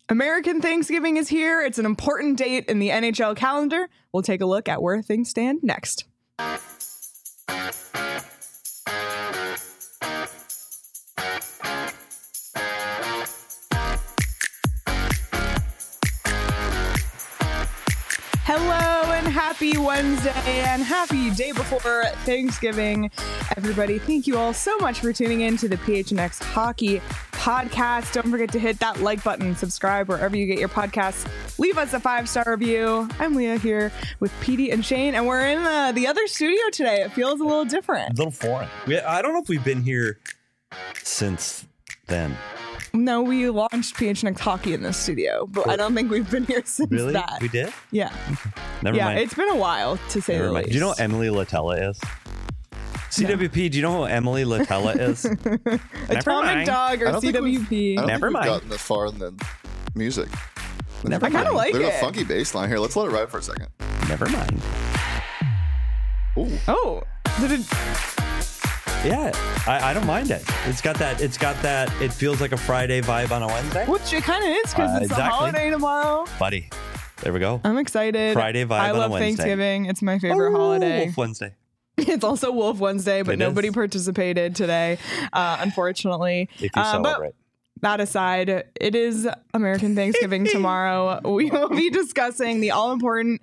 American Thanksgiving is here. It's an important date in the NHL calendar. We'll take a look at where things stand next. Hello and happy Wednesday and happy day before Thanksgiving, everybody. Thank you all so much for tuning in to the PHNX Hockey Podcast. Don't forget to hit that like button, subscribe wherever you get your podcasts. Leave us a 5-star review. I'm Leah here with Petey and Shane, and we're in the other studio today. It feels a little different. A little foreign. I don't know if we've been here since then. No, we launched PHNX Hockey in this studio, but I don't think we've been here since that. We did? Yeah. Never mind. It's been a while, to say the least. Do you know who Emily Latella is? CWP, do you know who Emily Latella is? Atomic Dog or CWP. I don't Never think mind. we've gotten this far in the music. I kind of like There's it. a funky bass line here. Let's let it ride for a second. Never mind. Ooh. Oh, did it? Yeah, I don't mind it. It's got that, it feels like a Friday vibe on a Wednesday. Which it kind of is because it's a Exactly. holiday tomorrow. Buddy, there we go. I'm excited. Friday vibe I on a love Wednesday. Thanksgiving. It's my favorite holiday. Wolf Wednesday. It's also Wolf Wednesday, but It nobody is. participated today, unfortunately. If you celebrate. But that aside, it is American Thanksgiving tomorrow. We will be discussing the all-important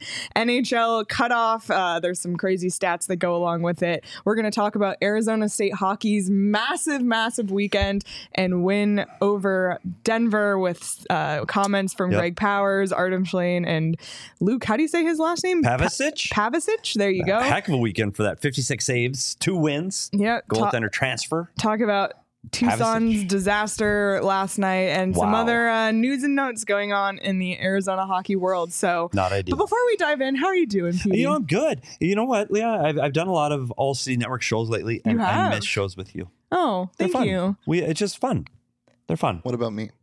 NHL cutoff. There's some crazy stats that go along with it. We're going to talk about Arizona State hockey's massive weekend and win over Denver with comments from Greg Powers, Artem Schlane, and Luke, how do you say his last name? Pavicic? Pavicic. There you go. Heck of a weekend for that. 56 saves, 2 wins. Yeah. Goaltender transfer. Talk about Tucson's disaster last night and some other news and notes going on in the Arizona hockey world. So, Not ideal. But before we dive in, how are you doing, Pete? You know, I'm good. You know what, Leah? I've done a lot of All City Network shows lately, and I miss shows with you. Oh, They're thank fun. you. It's just fun. They're fun. What about me?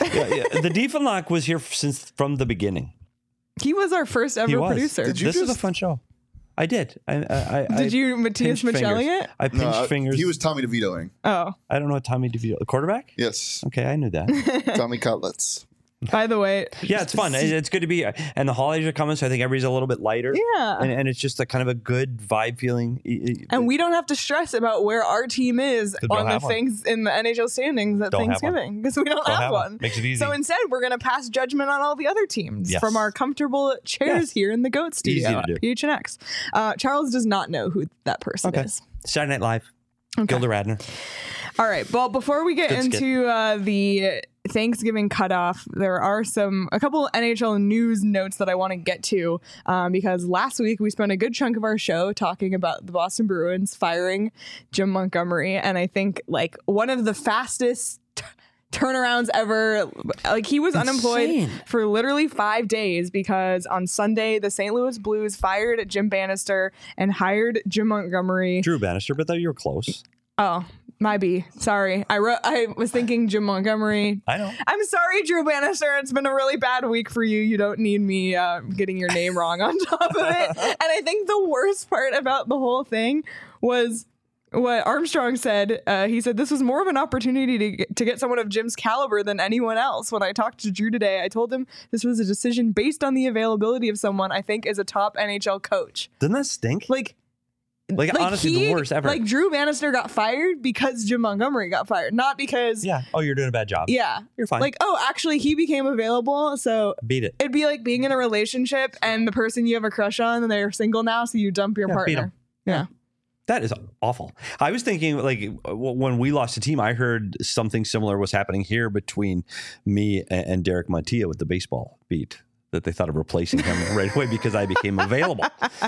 The Diefenlock was here from the beginning. He was our first He ever was. producer. This is a fun show. I did. Did you Matthias pinched fingers. Michelli it? I pinched fingers. He was Tommy DeVitoing. Oh, I don't know what Tommy DeVito, the quarterback? Yes. Okay, I knew that. Tommy Cutlets. by the way. Yeah, it's fun. It's good to be. And the holidays are coming, so I think everybody's a little bit lighter. Yeah. And it's just a kind of a good vibe feeling. And we don't have to stress about where our team is Don't on the have one. things in the NHL standings at Don't have Thanksgiving because we don't have one. Makes it easy. So instead, we're going to pass judgment on all the other teams Yes. from our comfortable chairs here in the GOAT studio Easy to at do. PHNX. Charles does not know who that person is. Saturday Night Live. Gilda Radner. All right. Well, before we get Good skit. into the Thanksgiving cutoff, there are a couple NHL news notes that I want to get to because last week we spent a good chunk of our show talking about the Boston Bruins firing Jim Montgomery, and I think like one of the fastest turnarounds ever. Like he was unemployed for literally 5 days because on Sunday the St. Louis Blues fired Jim Bannister and hired Jim Montgomery. Drew Bannister, but though you were close. Oh, my B. Sorry. I was thinking Jim Montgomery. I know. I'm sorry, Drew Bannister. It's been a really bad week for you. You don't need me getting your name wrong on top of it. And I think the worst part about the whole thing was what Armstrong said. He said this was more of an opportunity to get someone of Jim's caliber than anyone else. When I talked to Drew today, I told him this was a decision based on the availability of someone I think is a top NHL coach. Doesn't that stink? Like honestly, the worst ever. Like Drew Bannister got fired because Jim Montgomery got fired, not because Oh, you're doing a bad job. Yeah. You're fine. Like, oh, actually he became available, so Beat it. it'd be like being in a relationship and the person you have a crush on and they're single now, so you dump your Beat partner. 'em. Yeah. That is awful. I was thinking, like, when we lost the team, I heard something similar was happening here between me and Derek Montilla with the baseball beat, that they thought of replacing him right away because I became available.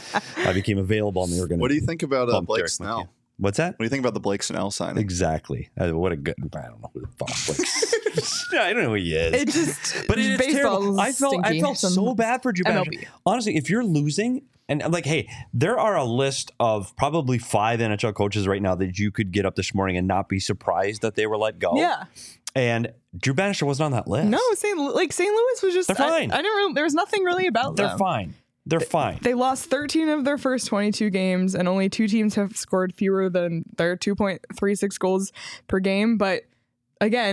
I became available, and they were going to. What do you think about bump Blake Derek Snell? Montilla. What's that? What do you think about the Blake Snell signing? Exactly. What a good. I don't know who the fuck Blake. I don't know who he is. It just But it is terrible. I felt so bad for Drew Bannister. MLB. Honestly, if you're losing, and I'm like, hey, there are a list of probably 5 NHL coaches right now that you could get up this morning and not be surprised that they were let go. Yeah. And Drew Bannister wasn't on that list. No, St. Louis was just They're fine. I didn't really, there was nothing really about They're them. fine. They're fine. They lost 13 of their first 22 games, and only 2 teams have scored fewer than their 2.36 goals per game. But again,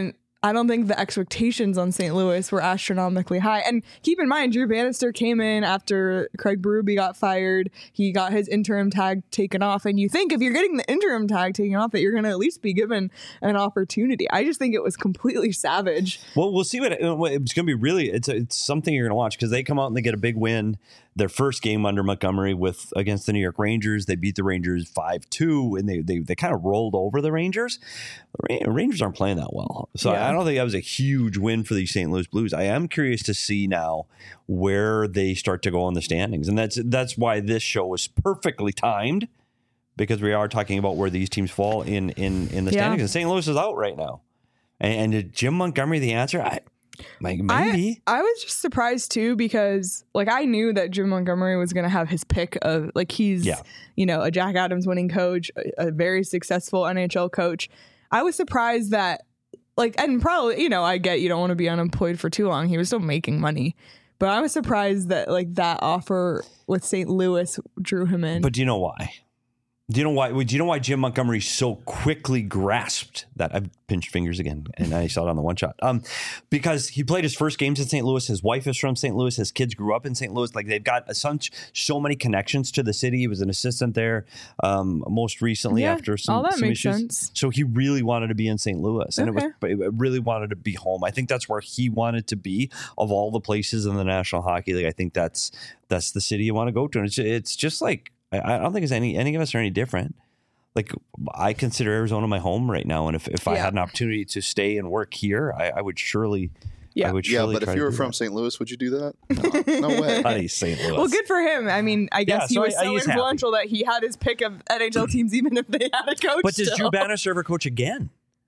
I don't think the expectations on St. Louis were astronomically high. And keep in mind, Drew Bannister came in after Craig Berube got fired. He got his interim tag taken off. And you think if you're getting the interim tag taken off, that you're going to at least be given an opportunity. I just think it was completely savage. Well, we'll see what it's going to be. Really, it's something you're going to watch because they come out and they get a big win. Their first game under Montgomery against the New York Rangers, they beat the Rangers 5-2, and they kind of rolled over the Rangers. The Rangers aren't playing that well, so Yeah. I don't think that was a huge win for the St. Louis Blues. I am curious to see now where they start to go on the standings, and that's why this show is perfectly timed because we are talking about where these teams fall in the standings. And St. Louis is out right now, and is Jim Montgomery the answer? Maybe. I was just surprised too because like I knew that Jim Montgomery was going to have his pick of like he's a Jack Adams winning coach, a very successful NHL coach. I was surprised that like, and probably, I get you don't want to be unemployed for too long. He was still making money, but I was surprised that like that offer with St. Louis drew him in. But do you know why? Do you know why Jim Montgomery so quickly grasped that? I've pinched fingers again, and I saw it on the one shot. Because he played his first games in St. Louis. His wife is from St. Louis. His kids grew up in St. Louis. Like they've got so many connections to the city. He was an assistant there most recently after some makes issues. sense. So he really wanted to be in St. Louis, and it really wanted to be home. I think that's where he wanted to be of all the places in the National Hockey League. I think that's the city you want to go to, and it's just like. I don't think any of us are any different. Like I consider Arizona my home right now, and if I had an opportunity to stay and work here, I would surely. But if you were from St. Louis, would you do that? No way. Buddy, St. Louis. Well, good for him. I mean, I guess he was so influential that he had his pick of NHL teams, even if they had a coach. But does Drew Bannister ever coach again?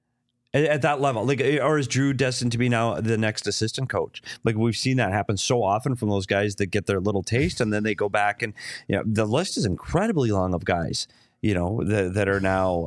At that level, like, or is Drew destined to be now the next assistant coach? Like we've seen that happen so often from those guys that get their little taste and then they go back and the list is incredibly long of guys that are now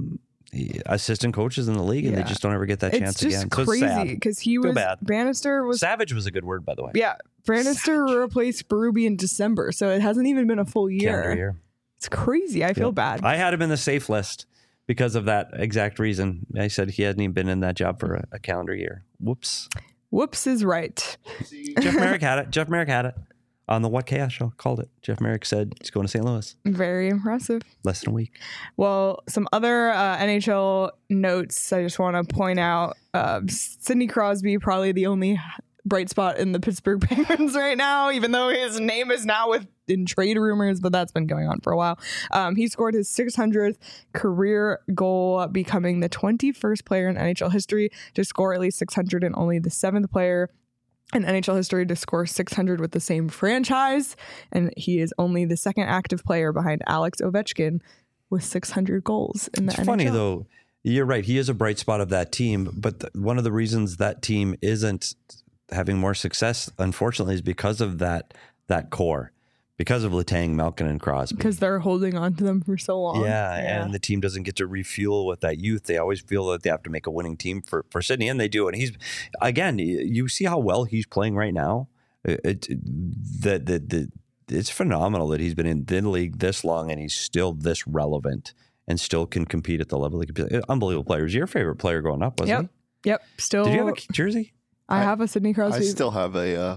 assistant coaches in the league and they just don't ever get that chance again. It's just crazy because he was Bannister was savage was a good word by the way. Yeah, Bannister replaced Berube in December, so it hasn't even been a full year. Calendar year. It's crazy. I feel bad. I had him in the safe list. Because of that exact reason. I said he hadn't even been in that job for a calendar year. Whoops. Whoops is right. Jeff Merrick had it. On the What Chaos show, called it. Jeff Merrick said he's going to St. Louis. Very impressive. Less than a week. Well, some other NHL notes I just want to point out. Sidney Crosby, probably the only bright spot in the Pittsburgh Penguins right now, even though his name is now in trade rumors, but that's been going on for a while. He scored his 600th career goal, becoming the 21st player in NHL history to score at least 600 and only the 7th player in NHL history to score 600 with the same franchise. And he is only the second active player behind Alex Ovechkin with 600 goals in the NHL. It's funny, though. You're right. He is a bright spot of that team. But one of the reasons that team isn't having more success, unfortunately, is because of that core. Because of Letang, Malkin, and Crosby. Because they're holding on to them for so long. Yeah, and the team doesn't get to refuel with that youth. They always feel that they have to make a winning team for Sidney, and they do. And he's, again, you see how well he's playing right now. It's phenomenal that he's been in the league this long and he's still this relevant and still can compete at the level. Unbelievable players. Your favorite player growing up, wasn't he? Yep. Still. Did you have a jersey? I have a Sidney Crosby. I still have a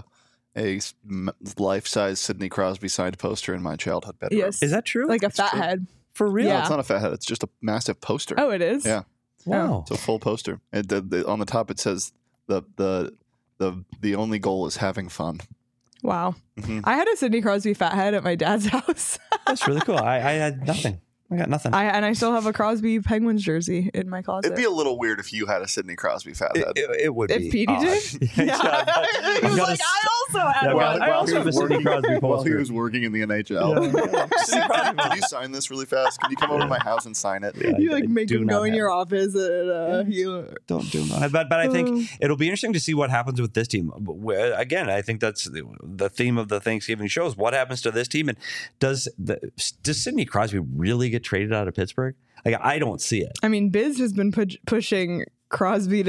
life-size Sidney Crosby signed poster in my childhood bedroom. Yes. Is that true? Like a fat head. For real? No, it's not a fat head. It's just a massive poster. Oh, it is? Yeah. Wow. It's a full poster. And on the top it says the only goal is having fun. Wow. Mm-hmm. I had a Sidney Crosby fat head at my dad's house. That's really cool. I had nothing. I got nothing. And I still have a Crosby Penguins jersey in my closet. It'd be a little weird if you had a Sidney Crosby fat head. It would if be. If Petey did? Yeah. He was like, I also had one. I also have a Sidney Crosby poster. While he was working in the NHL. Yeah. Can you sign this really fast? Can you come over to my house and sign it? Yeah, you make him go in your office and don't do that. But I think it'll be interesting to see what happens with this team. Again, I think that's the theme of the Thanksgiving show is what happens to this team, and does Sidney Crosby really get traded out of Pittsburgh? Like, I don't see it. I mean, Biz has been pushing Crosby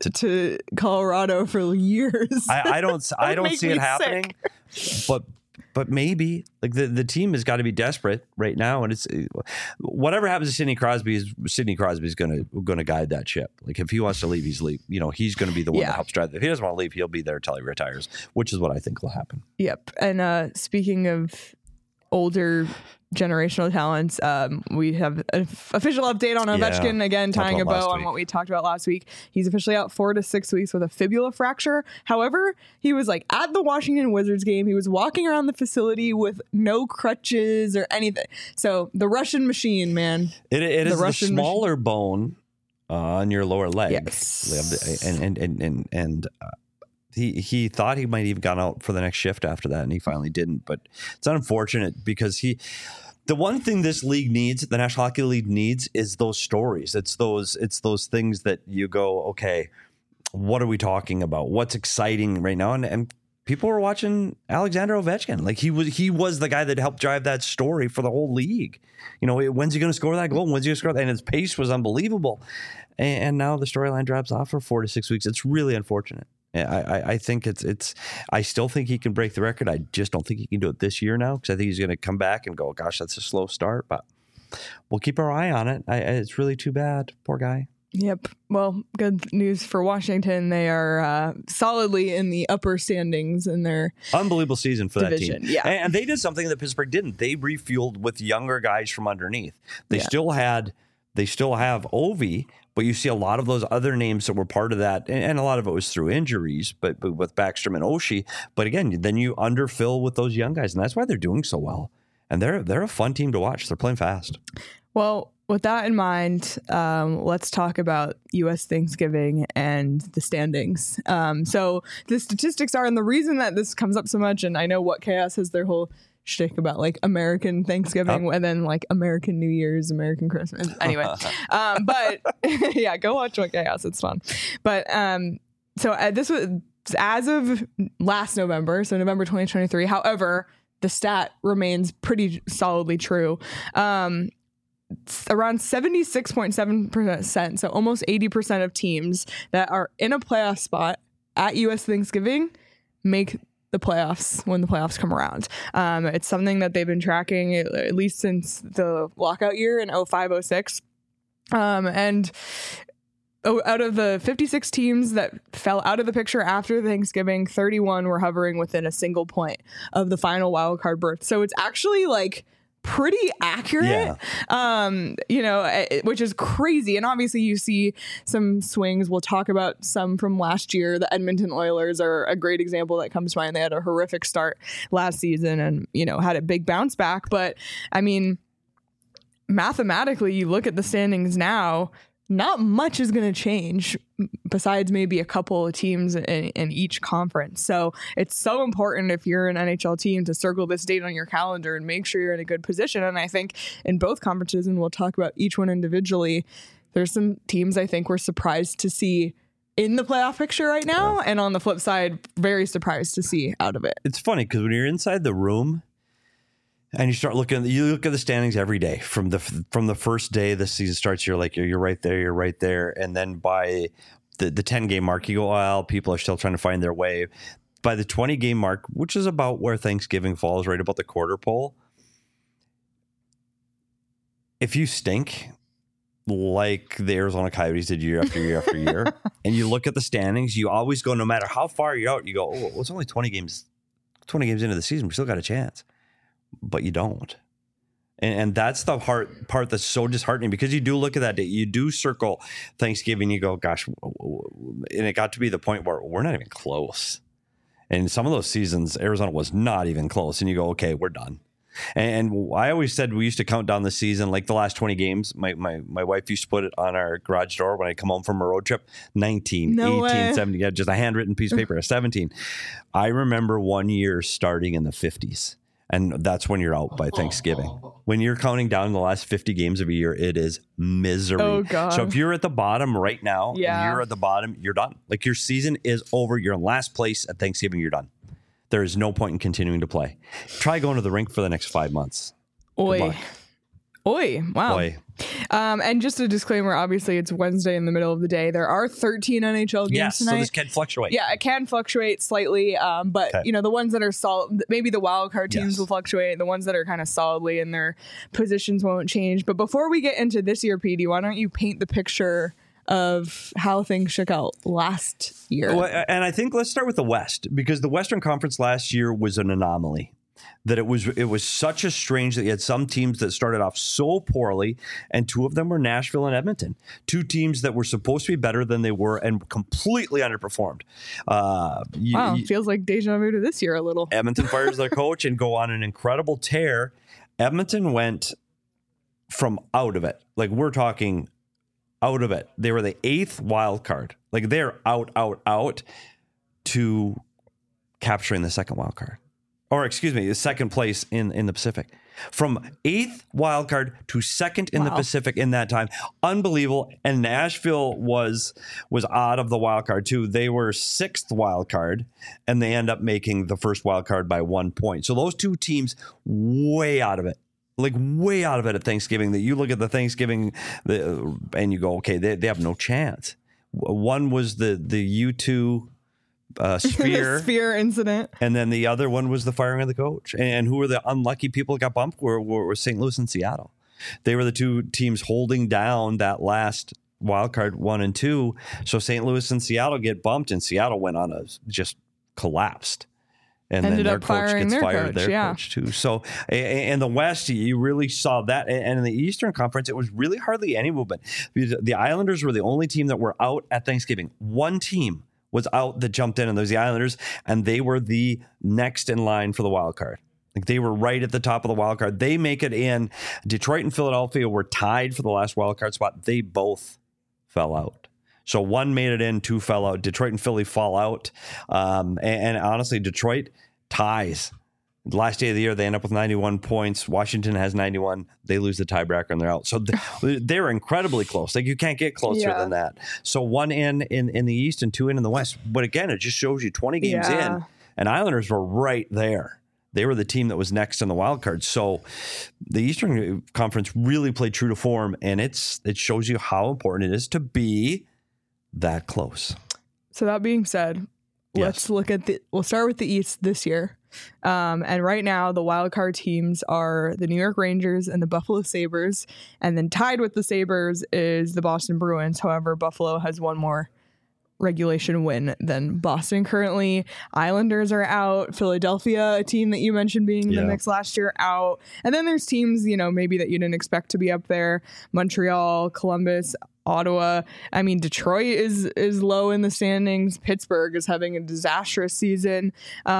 to Colorado for years. I don't see it happening. But but maybe like the team has got to be desperate right now, and it's whatever happens to Sidney Crosby is going to guide that ship. Like if he wants to leave, he's going to be the one that helps drive. If he doesn't want to leave, he'll be there until he retires, which is what I think will happen. Yep. And speaking of older generational talents, we have an official update on Ovechkin, again tying a bow on what we talked about last week. He's officially out 4 to 6 weeks with a fibula fracture. However, he was like at the Washington Wizards game, he was walking around the facility with no crutches or anything. So the Russian machine, man. It is the smaller bone on your lower leg. Yes. And he thought he might even gone out for the next shift after that, and he finally didn't. But it's unfortunate because the one thing this league needs, the National Hockey League needs, is those stories. It's those things that you go, okay, what are we talking about? What's exciting right now? And people were watching Alexander Ovechkin. Like he was the guy that helped drive that story for the whole league. When's he going to score that goal? When's he going to score that? And his pace was unbelievable. And now the storyline drops off for 4 to 6 weeks. It's really unfortunate. I think I still think he can break the record. I just don't think he can do it this year now, because I think he's going to come back and go, gosh, that's a slow start, but we'll keep our eye on it. It's really too bad. Poor guy. Yep. Well, good news for Washington. They are solidly in the upper standings in their unbelievable season for division. That team. Yeah. And they did something that Pittsburgh didn't. They refueled with younger guys from underneath. They still have Ovi, but you see a lot of those other names that were part of that, and a lot of it was through injuries, but with Backstrom and Oshie. But again, then you underfill with those young guys, and that's why they're doing so well. And they're a fun team to watch. They're playing fast. Well, with that in mind, let's talk about U.S. Thanksgiving and the standings. So the statistics are, and the reason that this comes up so much, and I know What Chaos has their whole shtick about like American Thanksgiving and then like American New Year's, American Christmas. Anyway, but yeah, go watch What Chaos. It's fun. But so this was as of last November, so November 2023. However, the stat remains pretty solidly true. Around 76.7%, so almost 80% of teams that are in a playoff spot at U.S. Thanksgiving make the playoffs when the playoffs come around. It's something that they've been tracking at least since the lockout year in 05-06. And out of the 56 teams that fell out of the picture after Thanksgiving, 31 were hovering within a single point of the final wildcard berth. So it's actually like pretty accurate, which is crazy. And obviously you see some swings. We'll talk about some from last year. The Edmonton Oilers are a great example that comes to mind. They had a horrific start last season and, had a big bounce back. But I mean, mathematically, you look at the standings now, not much is going to change besides maybe a couple of teams in each conference. So it's so important if you're an NHL team to circle this date on your calendar and make sure you're in a good position. And I think in both conferences, and we'll talk about each one individually, there's some teams I think we're surprised to see in the playoff picture right now. And on the flip side, very surprised to see out of it. It's funny because when you're inside the room, and you look at the standings every day from the first day the season starts. You're like, you're right there. And then by the 10 game mark, you go, well, people are still trying to find their way. By the 20 game mark, which is about where Thanksgiving falls, right about the quarter pole. If you stink like the Arizona Coyotes did year after year after year, and you look at the standings, you always go, no matter how far you're out, you go, oh, well, it's only 20 games into the season. We still got a chance. But you don't. And that's the part that's so disheartening, because you do look at that day, you do circle Thanksgiving, you go, gosh, and it got to be the point where we're not even close. And some of those seasons, Arizona was not even close. And you go, okay, we're done. And I always said we used to count down the season, like the last 20 games. My wife used to put it on our garage door when I come home from a road trip. 19, 18, 17, yeah, just a handwritten piece of paper, 17. I remember one year starting in the 50s. And that's when you're out by Thanksgiving. When you're counting down the last 50 games of a year, it is misery. Oh, God. So if you're at the bottom right now, and you're at the bottom, you're done. Like your season is over. You're in last place at Thanksgiving. You're done. There is no point in continuing to play. Try going to the rink for the next 5 months. Oi. Oi, wow. Boy. And just a disclaimer, obviously it's Wednesday in the middle of the day. There are 13 NHL games Yes, tonight. so this can fluctuate. Yeah, it can fluctuate slightly, but Okay. the ones that are solid, maybe the wild card teams Yes. will fluctuate. The ones that are kind of solidly in their positions won't change. But before we get into this year, PD, why don't you paint the picture of how things shook out last year? Well, and I think let's start with the West, because the Western Conference last year was an anomaly. That it was such a strange that you had some teams that started off so poorly, and two of them were Nashville and Edmonton, two teams that were supposed to be better than they were and completely underperformed. Wow, feels like deja vu to this year a little. Edmonton fires their coach and go on an incredible tear. Edmonton went from out of it, like we're talking out of it. They were the 8th wild card, like they're out to capturing the second wild card. Or excuse me, the second place in the Pacific. From 8th wild card to second in the Pacific in that time. Unbelievable. And Nashville was out of the wild card too. They were 6th wild card, and they end up making the first wild card by 1 point. So those two teams way out of it. Like way out of it at Thanksgiving, that you look at the Thanksgiving and you go, okay, they have no chance. One was the U2 sphere. Sphere incident. And then the other one was the firing of the coach. And who were the unlucky people that got bumped were St. Louis and Seattle. They were the two teams holding down that last wild card 1 and 2. So St. Louis and Seattle get bumped, and Seattle went on just collapsed. And Ended then their up coach firing gets their fired, coach, their yeah. coach too. So in the West, you really saw that. And in the Eastern Conference, it was really hardly any movement. The Islanders were the only team that were out at Thanksgiving. One team was out that jumped in, and there's the Islanders, and they were the next in line for the wild card. Like they were right at the top of the wild card. They make it in. Detroit and Philadelphia were tied for the last wild card spot. They both fell out. So one made it in, two fell out. Detroit and Philly fall out. And honestly, Detroit ties. The last day of the year, they end up with 91 points. Washington has 91. They lose the tiebreaker and they're out. So they're incredibly close. Like you can't get closer than that. So one in the East and two in the West. But again, it just shows you 20 games in, and Islanders were right there. They were the team that was next in the wild card. So the Eastern Conference really played true to form, and it shows you how important it is to be that close. So that being said, let's look at we'll start with the East this year. And right now, the wild card teams are the New York Rangers and the Buffalo Sabres. And then tied with the Sabres is the Boston Bruins. However, Buffalo has one more regulation win than Boston currently. Islanders are out. Philadelphia, a team that you mentioned being in the mix last year, out. And then there's teams, maybe that you didn't expect to be up there. Montreal, Columbus, Ottawa. I mean, Detroit is low in the standings. Pittsburgh is having a disastrous season.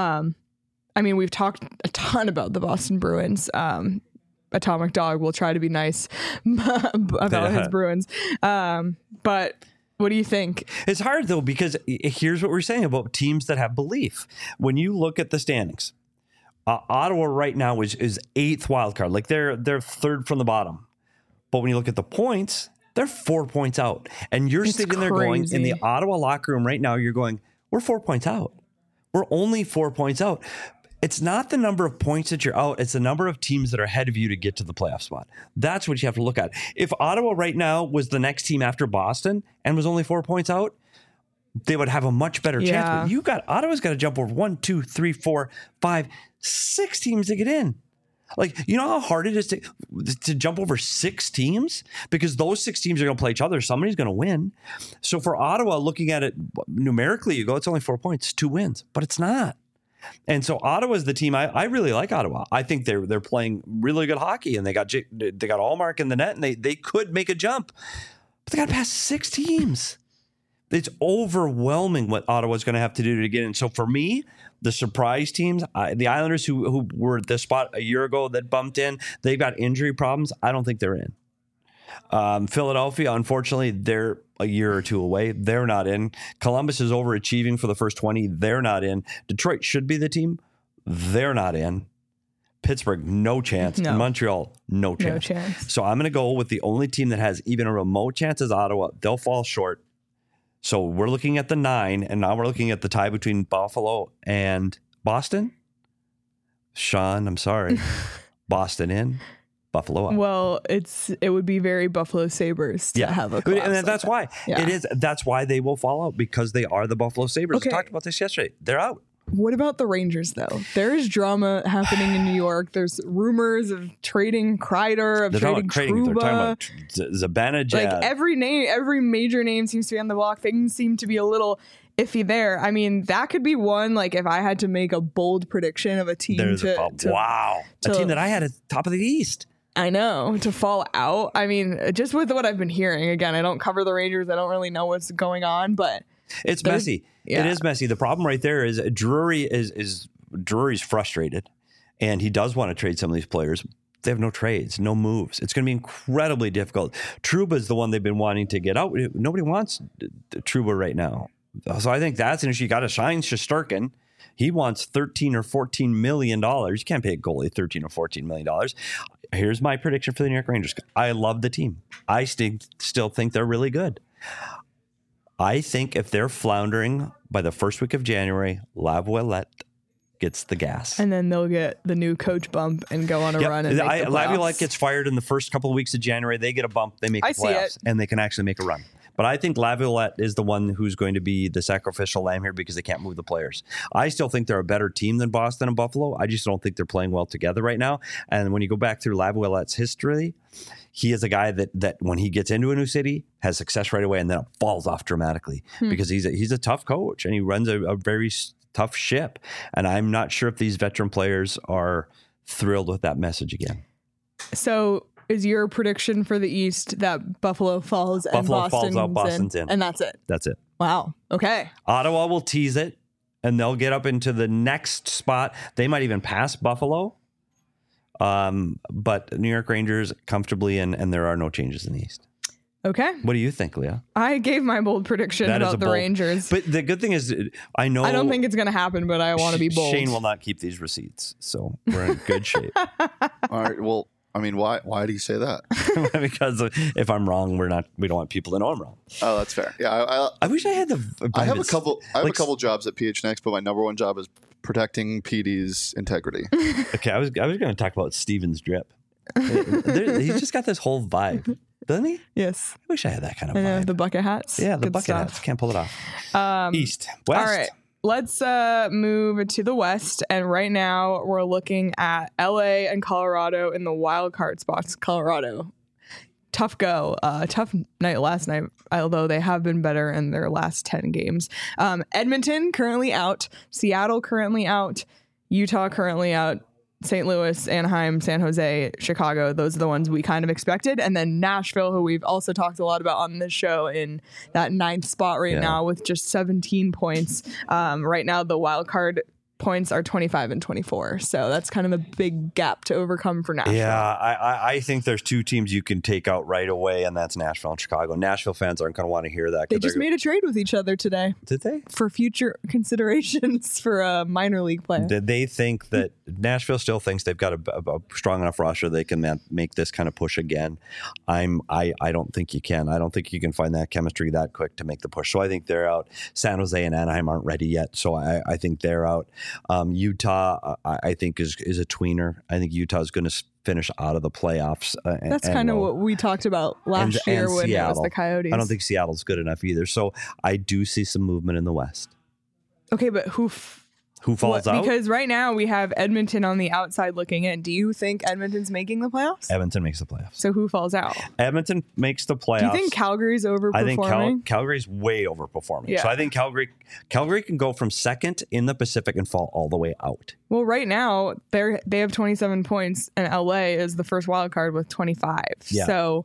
I mean, we've talked a ton about the Boston Bruins. Atomic Dog will try to be nice about his Bruins. But what do you think? It's hard, though, because here's what we're saying about teams that have belief. When you look at the standings, Ottawa right now is 8th wild card. Like they're 3rd from the bottom. But when you look at the points, they're 4 points out. And you're sitting there going, in the Ottawa locker room right now, you're going, we're 4 points out. We're only 4 points out. It's not the number of points that you're out. It's the number of teams that are ahead of you to get to the playoff spot. That's what you have to look at. If Ottawa right now was the next team after Boston and was only 4 points out, they would have a much better chance. But Ottawa's got to jump over 1, 2, 3, 4, 5, 6 teams to get in. Like, you know how hard it is to jump over 6 teams? Because those 6 teams are going to play each other. Somebody's going to win. So for Ottawa, looking at it numerically, you go, it's only 4 points, 2 wins. But it's not. And so Ottawa's the team. I really like Ottawa. I think they're playing really good hockey, and they got Allmark in the net, and they could make a jump. But they got to pass 6 teams. It's overwhelming what Ottawa's going to have to do to get in. So for me, the surprise teams, the Islanders who were at this spot a year ago that bumped in, they've got injury problems. I don't think they're in. Philadelphia, unfortunately, they're a year or two away. They're not in. Columbus is overachieving for the first 20. They're not in. Detroit should be the team. They're not in. Pittsburgh, no chance. No. Montreal, no chance. No chance. So I'm going to go with the only team that has even a remote chance is Ottawa. They'll fall short. So we're looking at the 9, and now we're looking at the tie between Buffalo and Boston. Sean, I'm sorry. Boston in. Buffalo out. Well, it would be very Buffalo Sabres to have a collapse and that's like why it is. That's why they will fall out, because they are the Buffalo Sabres. Okay. We talked about this yesterday. They're out. What about the Rangers, though? There is drama happening in New York. There's rumors of trading Kreider, of They're trading talking Trouba. about Zibanejad. Like every major name seems to be on the block. Things seem to be a little iffy there. I mean, that could be one. Like if I had to make a bold prediction of a team a team that I had at the top of the East. I know, to fall out. I mean, just with what I've been hearing. Again, I don't cover the Rangers. I don't really know what's going on, but it's messy. Yeah. It is messy. The problem right there is Drury's frustrated, and he does want to trade some of these players. They have no trades, no moves. It's going to be incredibly difficult. Trouba is the one they've been wanting to get out. Nobody wants Trouba right now. So I think that's an issue. You got to shine Shesterkin. He wants $13 or $14 million. You can't pay a goalie $13 or $14 million. Here's my prediction for the New York Rangers. I love the team. I still think they're really good. I think if they're floundering by the first week of January, Laviolette gets the gas. And then they'll get the new coach bump and go on a run. And make the Laviolette gets fired in the first couple of weeks of January. They get a bump. They make the playoffs. And they can actually make a run. But I think Laviolette is the one who's going to be the sacrificial lamb here because they can't move the players. I still think they're a better team than Boston and Buffalo. I just don't think they're playing well together right now. And when you go back through Laviolette's history, he is a guy that when he gets into a new city has success right away, and then it falls off dramatically because he's a tough coach and he runs a very tough ship. And I'm not sure if these veteran players are thrilled with that message again. So is your prediction for the East that Buffalo falls and Boston's in? And that's it? That's it. Wow. Okay. Ottawa will tease it, and they'll get up into the next spot. They might even pass Buffalo. But New York Rangers comfortably in, and there are no changes in the East. Okay. What do you think, Leah? I gave my bold prediction about the Rangers. But the good thing is, I don't think it's going to happen, but I want to be bold. Shane will not keep these receipts, so we're in good shape. All right. Well, I mean, why do you say that? Because if I'm wrong, we don't want people to know I'm wrong. Oh, that's fair. Yeah, I wish I had I have a couple jobs at PHNX, but my number one job is protecting PD's integrity. Okay, I was going to talk about Steven's drip. He's just got this whole vibe, doesn't he? Yes. I wish I had that kind of vibe. The bucket hats. Yeah, the bucket hats. Can't pull it off. East, West. All right. Let's move to the West. And right now we're looking at LA and Colorado in the wild card spots. Colorado, tough go. Tough night last night, although they have been better in their last 10 games. Edmonton currently out. Seattle currently out. Utah currently out. St. Louis, Anaheim, San Jose, Chicago, those are the ones we kind of expected. And then Nashville, who we've also talked a lot about on this show, in that 9th spot right now with just 17 points. Right now, the wild card points are 25 and 24. So that's kind of a big gap to overcome for Nashville. Yeah, I think there's two teams you can take out right away, and that's Nashville and Chicago. Nashville fans aren't going to want to hear that. They just made a trade with each other today. Did they? For future considerations for a minor league player. Did they think that Nashville still thinks they've got a strong enough roster they can make this kind of push again? I don't think you can. I don't think you can find that chemistry that quick to make the push. So I think they're out. San Jose and Anaheim aren't ready yet, so I think they're out. Utah, I think, is a tweener. I think Utah is going to finish out of the playoffs. That's kind of what we talked about last year when Seattle. It was the Coyotes. I don't think Seattle's good enough either. So I do see some movement in the West. Okay, but who falls out? Because right now we have Edmonton on the outside looking in. Do you think Edmonton's making the playoffs? Edmonton makes the playoffs. So who falls out? Edmonton makes the playoffs. Do you think Calgary's overperforming? I think Calgary's way overperforming. Yeah. So I think Calgary can go from second in the Pacific and fall all the way out. Well, right now they have 27 points, and LA is the first wild card with 25. Yeah. So,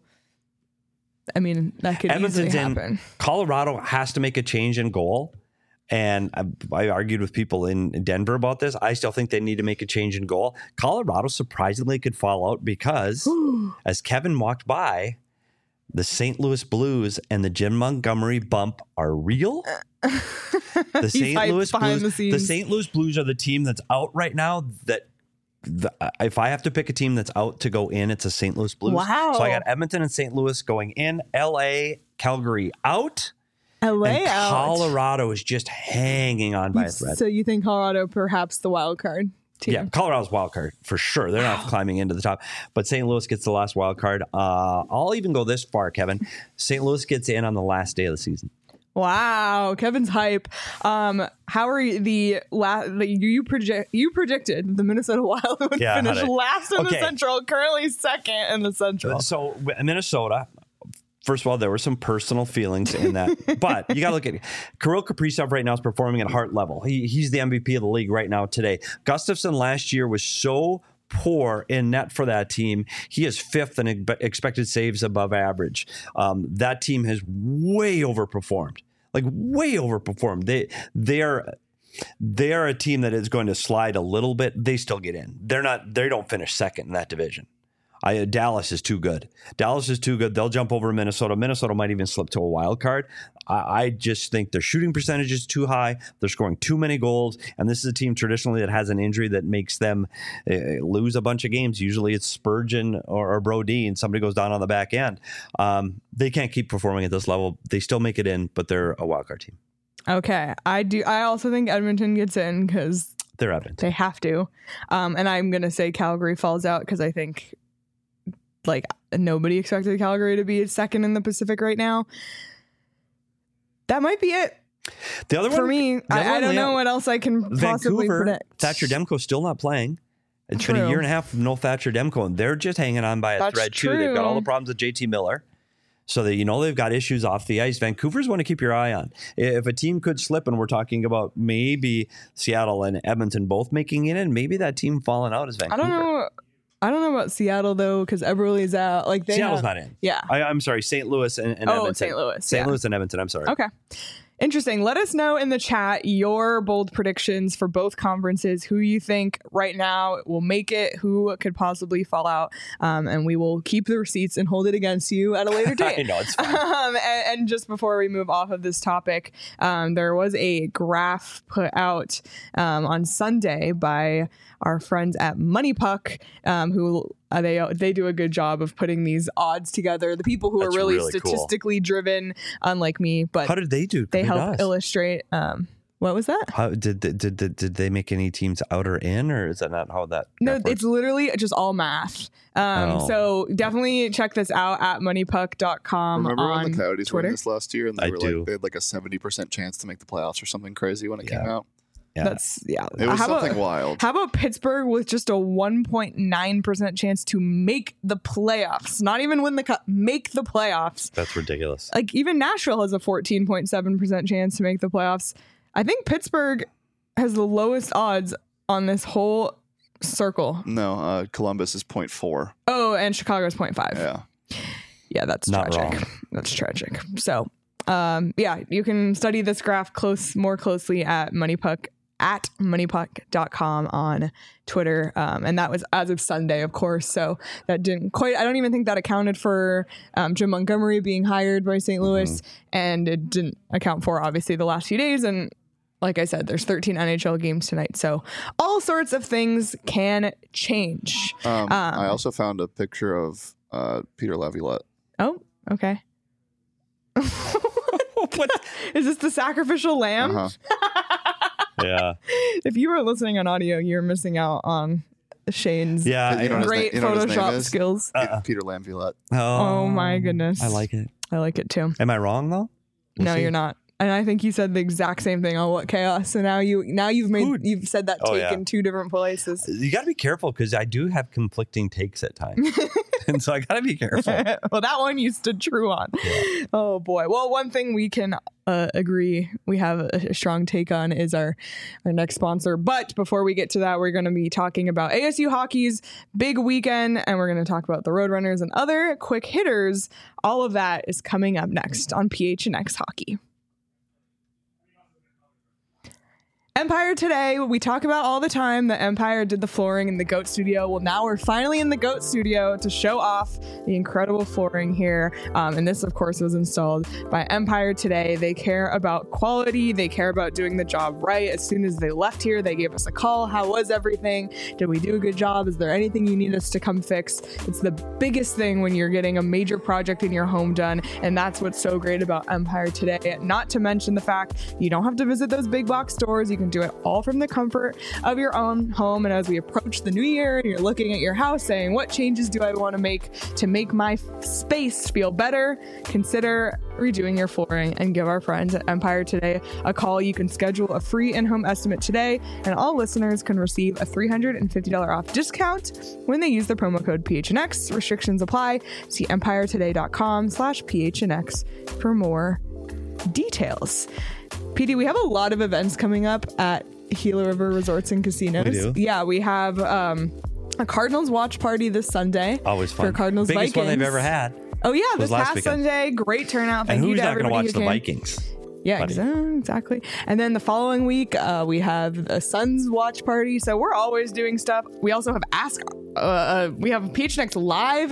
I mean, that could easily happen. Colorado has to make a change in goal. And I argued with people in Denver about this. I still think they need to make a change in goal. Colorado surprisingly could fall out because as Kevin walked by, the St. Louis Blues and the Jim Montgomery bump are real. The St. Louis Blues are the team that's out right now. If I have to pick a team that's out to go in, it's a St. Louis Blues. Wow. So I got Edmonton and St. Louis going in. LA, Calgary out. LA out. Colorado is just hanging on by a thread. So you think Colorado perhaps the wild card? team. Yeah, Colorado's wild card for sure. They're not climbing into the top, but St. Louis gets the last wild card. I'll even go this far, Kevin. St. Louis gets in on the last day of the season. Wow, Kevin's hype. How are you you predicted the Minnesota Wild would finish last in the Central, currently second in the Central. So Minnesota, first of all, there were some personal feelings in that, but you got to look at it. Kirill Kaprizov right now is performing at heart level. He's the MVP of the league right now today. Gustafsson last year was so poor in net for that team. He is fifth in expected saves above average. That team has way overperformed. They are a team that is going to slide a little bit. They still get in. They don't finish second in that division. Dallas is too good. They'll jump over Minnesota. Minnesota might even slip to a wild card. I just think their shooting percentage is too high. They're scoring too many goals. And this is a team traditionally that has an injury that makes them lose a bunch of games. Usually it's Spurgeon or Brodin. Somebody goes down on the back end. They can't keep performing at this level. They still make it in, but they're a wild card team. Okay. I also think Edmonton gets in because they're Edmonton. They have to. And I'm going to say Calgary falls out because I think nobody expected Calgary to be second in the Pacific right now. That might be it. The other one for me, I don't know what else I can possibly predict. Thatcher Demko's still not playing. It's been a year and a half of no Thatcher Demko, and they're just hanging on by a thread too. They've got all the problems with JT Miller. So that they've got issues off the ice. Vancouver's one to keep your eye on. If a team could slip, and we're talking about maybe Seattle and Edmonton both making it in, maybe that team falling out is Vancouver. I don't know about Seattle though, because Eberle's out. Seattle's not in. Yeah, I'm sorry. St. Louis and Edmonton. St. Louis. St. Louis and Edmonton. I'm sorry. Okay. Interesting. Let us know in the chat your bold predictions for both conferences, who you think right now will make it, who could possibly fall out, and we will keep the receipts and hold it against you at a later date. I know, it's fine. And just before we move off of this topic, there was a graph put out on Sunday by our friends at Money Puck, who they do a good job of putting these odds together. The people who are really statistically driven, unlike me. But how did they do? They help illustrate. What was that? How did they make any teams out or in, or is that not how that? No, it's literally just all math. So definitely check this out at moneypuck.com. Remember on when the Coyotes Twitter? won this last year, and they do. They had like a 70% chance to make the playoffs or something crazy when it came out. Yeah. It was something wild. How about Pittsburgh with just a 1.9% chance to make the playoffs? Not even win the cup, make the playoffs. That's ridiculous. Even Nashville has a 14.7% chance to make the playoffs. I think Pittsburgh has the lowest odds on this whole circle. No, Columbus is 0.4. Oh, and Chicago is 0.5. Yeah, that's not tragic. Wrong. That's tragic. So, you can study this graph more closely at moneypuck.com on Twitter. And that was as of Sunday, of course. So that didn't quite, I don't even think that accounted for Jim Montgomery being hired by St. Louis. And it didn't account for, obviously, the last few days. And like I said, there's 13 NHL games tonight. So all sorts of things can change. I also found a picture of Peter Laviolette. Oh, okay. What is this, the sacrificial lamb? Yeah. If you were listening on audio, you're missing out on Shane's great Photoshop skills. Peter Laviolette. Oh my goodness. I like it. I like it too. Am I wrong though? No, you're not. And I think you said the exact same thing on What Chaos. So now you've said that take in two different places. You got to be careful because I do have conflicting takes at times, and so I got to be careful. Well, that one you stood true on. Yeah. Oh boy. Well, one thing we can agree we have a strong take on is our next sponsor. But before we get to that, we're going to be talking about ASU hockey's big weekend, and we're going to talk about the Roadrunners and other quick hitters. All of that is coming up next on PHNX Hockey. Empire Today, we talk about all the time that Empire did the flooring in the GOAT studio. Well, now we're finally in the GOAT studio to show off the incredible flooring here. And this, of course, was installed by Empire Today. They care about quality. They care about doing the job right. As soon as they left here, they gave us a call. How was everything? Did we do a good job? Is there anything you need us to come fix? It's the biggest thing when you're getting a major project in your home done. And that's what's so great about Empire Today. Not to mention the fact you don't have to visit those big box stores. You can can do it all from the comfort of your own home. And as we approach the new year and you're looking at your house saying, what changes do I want to make my space feel better? Consider redoing your flooring and give our friends at Empire Today a call. You can schedule a free in-home estimate today, and all listeners can receive a $350 off discount when they use the promo code PHNX. Restrictions apply. See empirettoday.com/PHNX for more details. PD, we have a lot of events coming up at Gila River Resorts and Casinos. We do? Yeah, we have a Cardinals watch party this Sunday. Always fun. For Cardinals Biggest Vikings. one they've ever had. Oh yeah, was this last past weekend. Sunday, great turnout. Thank And you who's to not going to everybody watch who the came. Vikings? Yeah, buddy? exactly. And then the following week, we have a Suns watch party. So we're always doing stuff. We also have we have PHNX live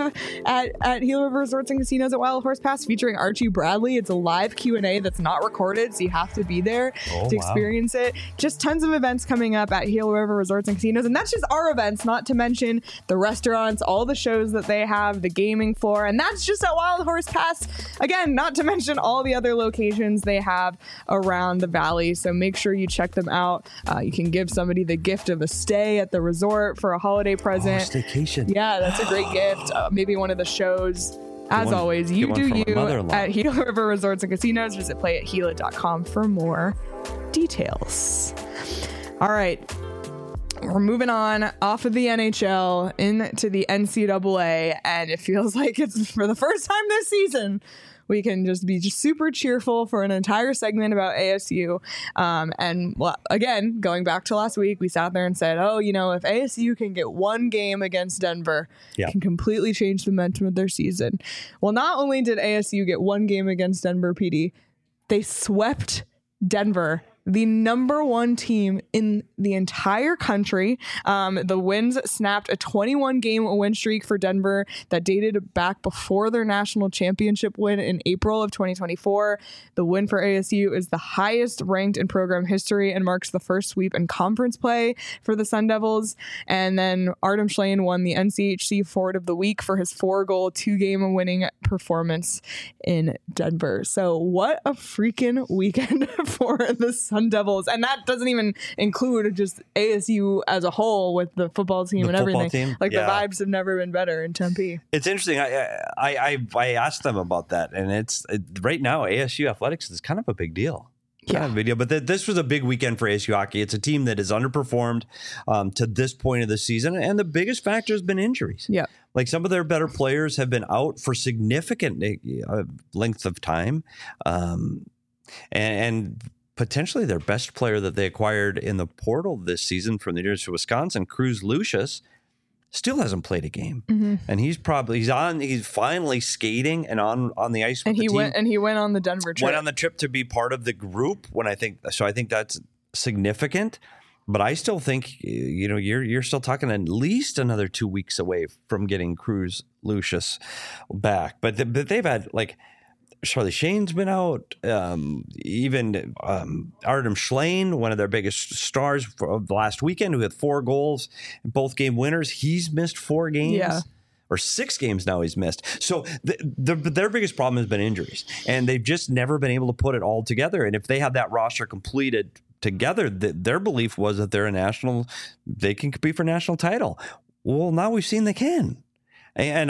at Gila River Resorts and Casinos at Wild Horse Pass featuring Archie Bradley. It's a live Q&A that's not recorded, so you have to be there to experience it. Just tons of events coming up at Gila River Resorts and Casinos. And that's just our events, not to mention the restaurants, all the shows that they have, the gaming floor. And that's just at Wild Horse Pass. Again, not to mention all the other locations they have around the valley. So make sure you check them out. You can give somebody the gift of a stay at the resort for a holiday present. Staycation. Yeah, that's a great gift. Maybe one of the shows. As always, you do you at Gila River Resorts and Casinos. Visit playatgila.com for more details. All right. We're moving on off of the NHL into the NCAA, and it feels like it's for the first time this season we can just be super cheerful for an entire segment about ASU. And well, again, going back to last week, we sat there and said, oh, if ASU can get one game against Denver, it can completely change the momentum of their season. Well, not only did ASU get one game against Denver, PD, they swept Denver, the number one team in the entire country. The Winds snapped a 21-game win streak for Denver that dated back before their national championship win in April of 2024. The win for ASU is the highest ranked in program history and marks the first sweep in conference play for the Sun Devils. And then Artem Schlane won the NCHC Forward of the Week for his 4-goal, 2-game winning performance in Denver. So what a freaking weekend for the Sun Devils. And that doesn't even include just ASU as a whole with the football team and everything. The vibes have never been better in Tempe. It's interesting. I asked them about that, and right now ASU athletics is kind of a big deal. Kind of a big deal. But this was a big weekend for ASU hockey. It's a team that has underperformed to this point of the season, and the biggest factor has been injuries. Yeah, like some of their better players have been out for significant lengths of time, and potentially their best player that they acquired in the portal this season from the University of Wisconsin, Cruz Lucius, still hasn't played a game. Mm-hmm. And he's finally skating and on the ice with the team. He went on the Denver trip. Went on the trip to be part of the group I think that's significant. But I still think, you're still talking at least another 2 weeks away from getting Cruz Lucius back. But they've had Charlie Shane's been out. Even Artem Schlane, one of their biggest stars of the last weekend, who had 4 goals, both game winners. He's missed 4 games. Or 6 games now he's missed. So their biggest problem has been injuries. And they've just never been able to put it all together. And if they have that roster completed together, their belief was that they can compete for national title. Well, now we've seen they can. And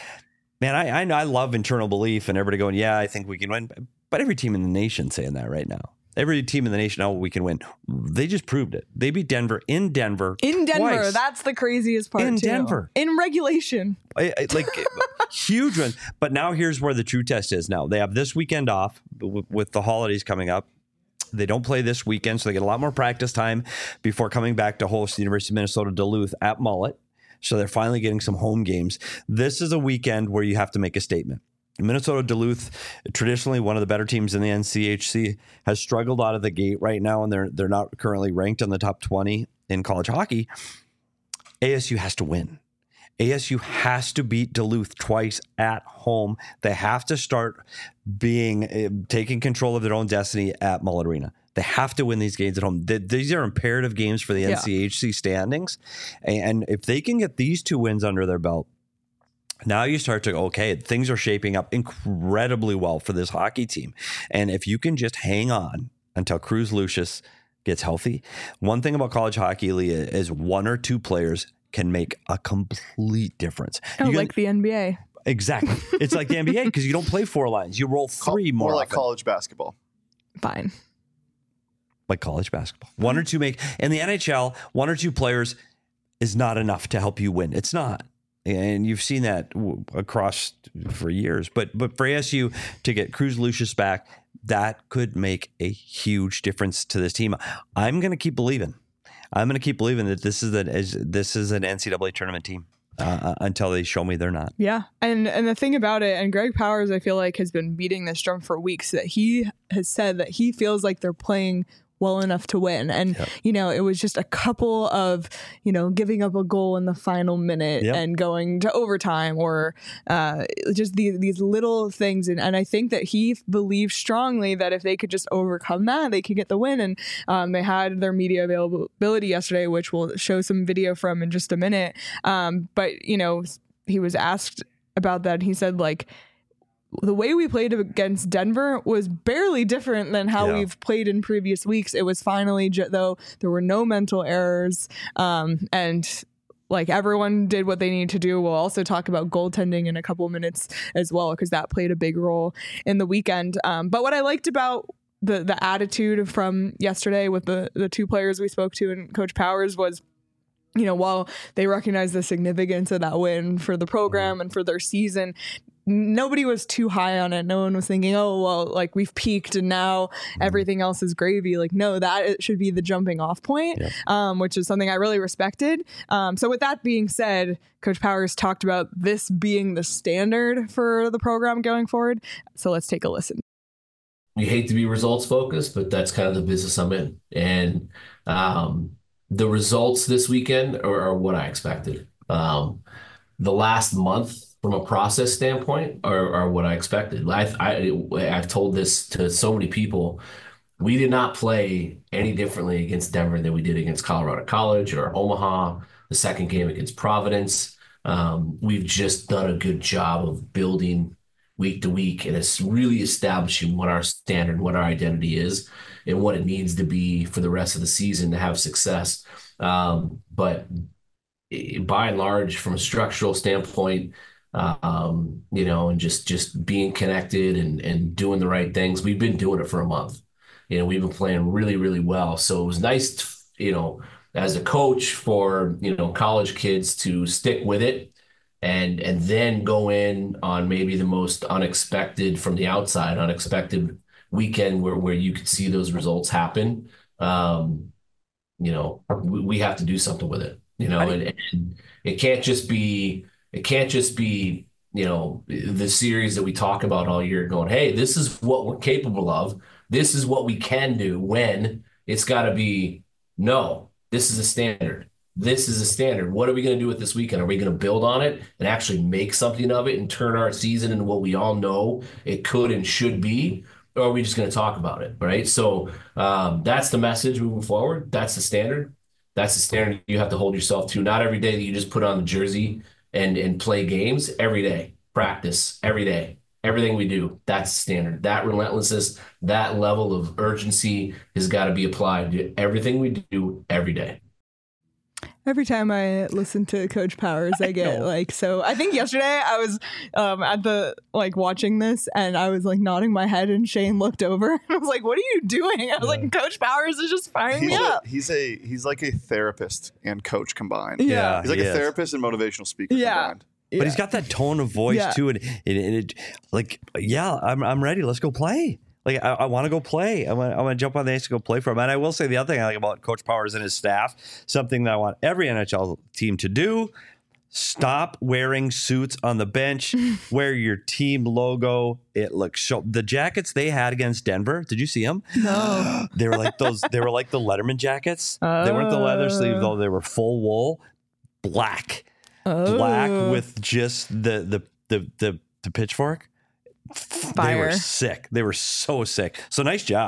I love internal belief and everybody going, I think we can win. But every team in the nation saying that right now. Every team in the nation, we can win. They just proved it. They beat Denver in Denver. Twice. That's the craziest part. Denver. In regulation. Huge one. But now here's where the true test is now. They have this weekend off with the holidays coming up. They don't play this weekend, so they get a lot more practice time before coming back to host the University of Minnesota Duluth at Mullet. So they're finally getting some home games. This is a weekend where you have to make a statement. Minnesota Duluth, traditionally one of the better teams in the NCHC, has struggled out of the gate right now, and they're not currently ranked in the top 20 in college hockey. ASU has to win. ASU has to beat Duluth twice at home. They have to start taking control of their own destiny at Mullet Arena. They have to win these games at home. These are imperative games for the NCHC standings. And if they can get these 2 wins under their belt, now you start to, things are shaping up incredibly well for this hockey team. And if you can just hang on until Cruz Lucius gets healthy. One thing about college hockey, Leah, is one or two players can make a complete difference. Like the NBA. Exactly. It's like the NBA because you don't play 4 lines. You roll 3 more like often. college basketball. Fine. Like college basketball. One or two make. In the NHL, 1 or 2 players is not enough to help you win. It's not. And you've seen that across for years. But for ASU to get Cruz Lucius back, that could make a huge difference to this team. I'm going to keep believing. I'm going to keep believing that this is an NCAA tournament team until they show me they're not. Yeah. And the thing about it, and Greg Powers, I feel like, has been beating this drum for weeks, that he has said that he feels like they're playing well enough to win. And, it was just a couple of, giving up a goal in the final minute and going to overtime or just these little things. And I think that he believes strongly that if they could just overcome that, they could get the win. And they had their media availability yesterday, which we'll show some video from in just a minute. But, he was asked about that. And he said, the way we played against Denver was barely different than how we've played in previous weeks. It was finally, though, there were no mental errors. And everyone did what they needed to do. We'll also talk about goaltending in a couple of minutes as well, because that played a big role in the weekend. But what I liked about the attitude from yesterday with the 2 players we spoke to and Coach Powers was, while they recognize the significance of that win for the program and for their season, nobody was too high on it. No one was thinking, oh, well, we've peaked and now everything else is gravy. No, it should be the jumping off point, which is something I really respected. So with that being said, Coach Powers talked about this being the standard for the program going forward. So let's take a listen. We hate to be results focused, but that's kind of the business I'm in. And the results this weekend are what I expected. The last month, from a process standpoint, are what I expected. I've told this to so many people. We did not play any differently against Denver than we did against Colorado College or Omaha, the second game against Providence. We've just done a good job of building week to week, and it's really establishing what our standard, what our identity is, and what it needs to be for the rest of the season to have success. But by and large, from a structural standpoint, and just being connected and doing the right things. We've been doing it for a month. We've been playing really, really well. So it was nice, as a coach for, college kids to stick with it and then go in on maybe the most unexpected from the outside, unexpected weekend where you could see those results happen. We have to do something with it, and it can't just be, the series that we talk about all year going, hey, this is what we're capable of. This is what we can do. When it's got to be, no, this is a standard. This is a standard. What are we going to do with this weekend? Are we going to build on it and actually make something of it and turn our season into what we all know it could and should be? Or are we just going to talk about it? Right. So that's the message moving forward. That's the standard. That's the standard you have to hold yourself to. Not every day that you just put on the jersey and play games. Every day, practice every day, everything we do. That's standard. That relentlessness, that level of urgency has got to be applied to everything we do every day. Every time I listen to Coach Powers, I get so I think yesterday I was at the watching this and I was nodding my head and Shane looked over and I was like, what are you doing? I was like, Coach Powers is just firing me up. He's like a therapist and coach combined. Yeah. He's like a therapist and motivational speaker combined. But he's got that tone of voice too. And I'm ready. Let's go play. I want to go play. I want to jump on the ice to go play for him. And I will say the other thing I like about Coach Powers and his staff, something that I want every NHL team to do, stop wearing suits on the bench. Wear your team logo. It looks so. The jackets they had against Denver, did you see them? No. They were like those. They were like the Letterman jackets. They weren't the leather sleeve though. They were full wool, black with just the pitchfork. Fire. They were sick. They were so sick. So nice job.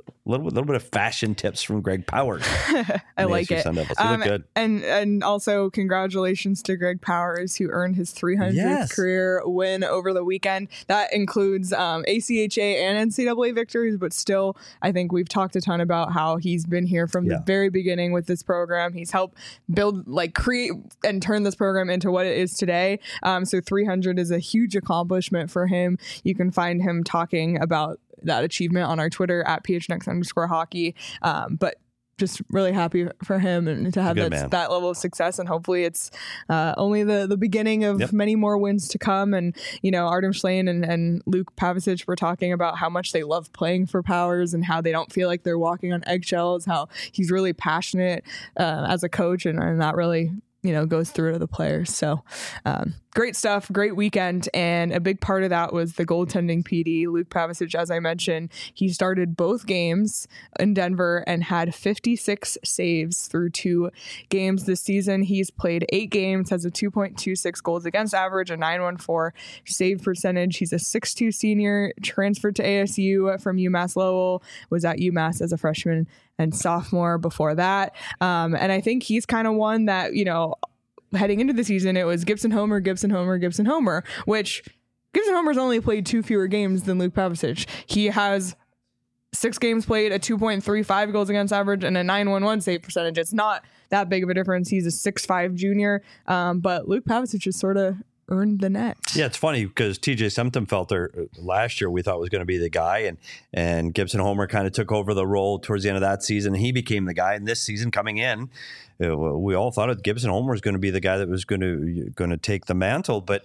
little bit of fashion tips from Greg Powers. I like it. Sun Devils. You look good. And also congratulations to Greg Powers, who earned his 300th career win over the weekend. That includes ACHA and NCAA victories, but still, I think we've talked a ton about how he's been here from the very beginning with this program. He's helped build, create and turn this program into what it is today. So 300 is a huge accomplishment for him. You can find him talking about that achievement on our Twitter at PHNX_hockey. But just really happy for him and to have that level of success. And hopefully it's only the beginning of many more wins to come. And, Artem Schlane and Luke Pavicic were talking about how much they love playing for Powers and how they don't feel like they're walking on eggshells, how he's really passionate as a coach. And that really, goes through to the players. So great stuff, great weekend. And a big part of that was the goaltending PD. Luke Pavicic, as I mentioned, he started both games in Denver and had 56 saves through 2 games this season. He's played 8 games, has a 2.26 goals against average, a 914 save percentage. He's a 6'2 senior, transferred to ASU from UMass Lowell, was at UMass as a freshman and sophomore before that. And I think he's kind of one that, heading into the season, it was Gibson Homer, Gibson Homer, Gibson Homer, which Gibson Homer's only played 2 fewer games than Luke Pavicic. He has 6 games played, a 2.35 goals against average, and a 911 save percentage. It's not that big of a difference. He's a 6'5 junior, but Luke Pavicic is sort of earned the net. Yeah, it's funny because TJ Semptimphelter last year we thought was going to be the guy, and Gibson Homer kind of took over the role towards the end of that season. He became the guy, and this season coming in, we all thought that Gibson Homer was going to be the guy that was going to take the mantle, but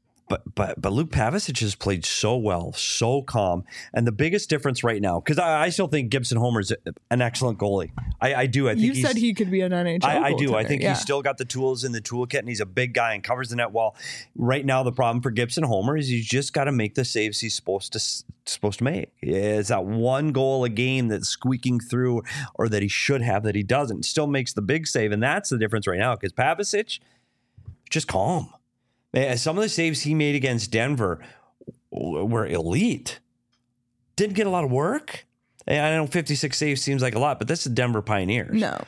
Luke Pavicic has played so well, so calm. And the biggest difference right now, because I still think Gibson Homer's an excellent goalie. I do. I think you said he could be an NHL I do. I think he's still got the tools in the toolkit, and he's a big guy and covers the net well. Right now, the problem for Gibson Homer is he's just got to make the saves he's supposed to make. It's that one goal a game that's squeaking through, or that he should have that he doesn't. Still makes the big save, and that's the difference right now. Because Pavicic, just calm. Some of the saves he made against Denver were elite. Didn't get a lot of work. I know 56 saves seems like a lot, but that's the Denver Pioneers. No.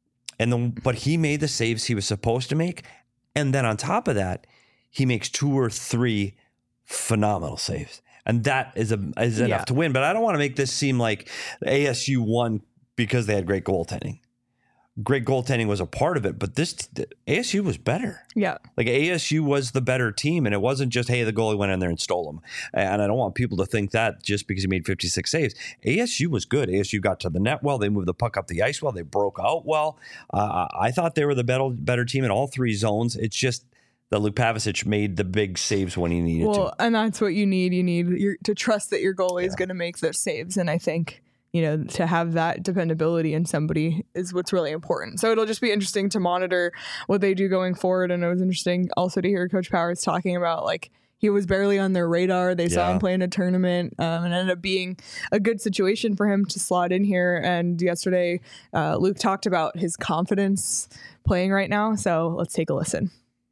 But he made the saves he was supposed to make. And then on top of that, he makes 2 or 3 phenomenal saves. And that is enough to win. But I don't want to make this seem like ASU won because they had great goaltending. Great goaltending was a part of it, but ASU was better. Yeah. ASU was the better team, and it wasn't just, hey, the goalie went in there and stole them. And I don't want people to think that just because he made 56 saves. ASU was good. ASU got to the net well. They moved the puck up the ice well. They broke out well. I thought they were the better team in all 3 zones. It's just that Luke Pavicic made the big saves when he needed to. Well, and that's what you need. You need to trust that your goalie is going to make those saves, and I think to have that dependability in somebody is what's really important. So it'll just be interesting to monitor what they do going forward. And it was interesting also to hear Coach Powers talking about he was barely on their radar. They saw him play in a tournament and ended up being a good situation for him to slot in here. And yesterday, Luke talked about his confidence playing right now. So let's take a listen.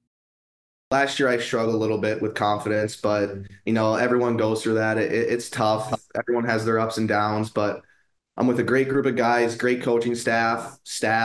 Last year, I struggled a little bit with confidence, but, everyone goes through that. It's tough. Everyone has their ups and downs, but I'm with a great group of guys, great coaching staff,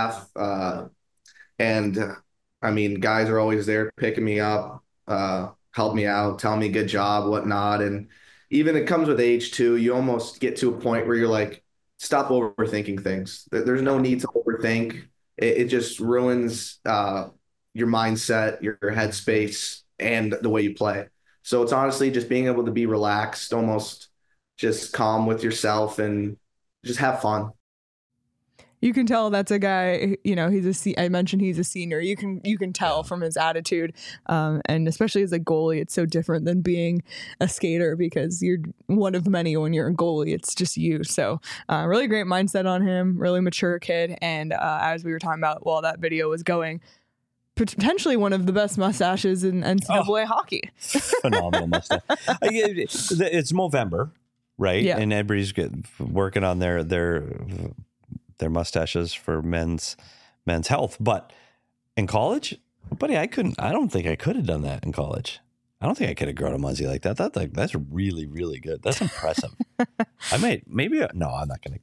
and guys are always there picking me up, help me out, tell me good job, whatnot. And even it comes with age too. You almost get to a point where you're like, stop overthinking things. There's no need to overthink. It just ruins your mindset, your headspace, and the way you play. So it's honestly just being able to be relaxed, almost just calm with yourself and just have fun. You can tell that's a guy, I mentioned he's a senior. You can tell from his attitude. And especially as a goalie, it's so different than being a skater because you're one of many when you're a goalie. It's just you. So really great mindset on him, really mature kid. And as we were talking about while that video was going, potentially one of the best mustaches in NCAA hockey. Phenomenal mustache. It's Movember, right? Yeah. And everybody's working on their mustaches for men's health. But in college, buddy, I don't think I could have done that in college. I don't think I could have grown a muzzy like that. That's really, really good. That's impressive. No, I'm not going to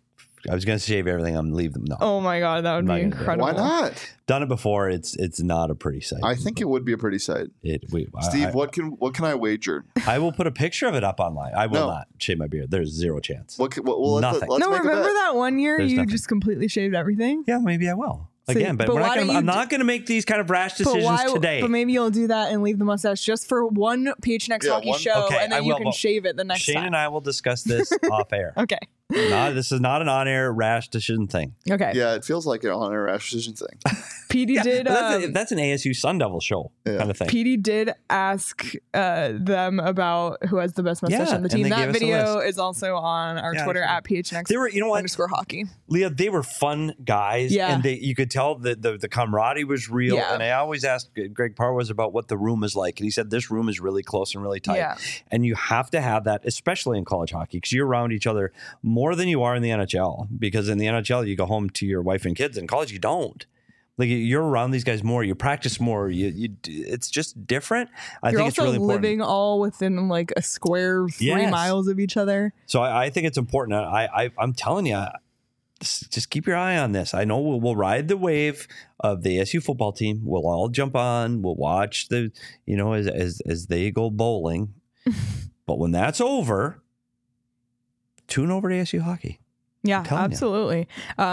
I was going to shave everything and leave them. No. Oh my God, that would I'm be not gonna do it. incredible. Why not? Done it before. It's not a pretty sight. I think it would be a pretty sight. Steve, what can I wager? I will put a picture of it up online. I will No. not shave my beard. There's zero chance. Well, Nothing. let's No, make a remember bet. that one year There's you nothing. just completely shaved everything? Yeah, maybe I will. So- Again, but but we're not why gonna, don't you I'm do- not going to make these kind of rash decisions today. But maybe you'll do that and leave the mustache just for one PHNX hockey show, Okay, and then I you will, can but shave it the next Shane time. and I will discuss this off air. Okay. This is not an on-air rash decision thing. Okay. Yeah, it feels like an on-air rash decision thing. PD did. That's an ASU Sun Devil show kind of thing. PD did ask them about who has the best mustache Yeah, on the and team. they gave That us a video list. is also on our Yeah, Twitter I saw at PHNX They were, you know what, _ hockey. Leah, they were fun guys, Yeah. and you could tell that the camaraderie was real. Yeah. And I always asked Greg Parwas about what the room is like, and he said this room is really close and really tight. Yeah. And you have to have that, especially in college hockey, because you're around each other more than you are in the NHL. Because in the NHL, you go home to your wife and kids. In college, you don't. Like you're around these guys more. You practice more. It's just different. I You're think it's also really important. living all within like a square 3 Yes. miles of each other. So I think it's important. I'm telling you, just keep your eye on this. I know we'll ride the wave of the ASU football team. We'll all jump on. We'll watch as they go bowling. But when that's over, tune over to ASU hockey. Yeah, telling ya. absolutely.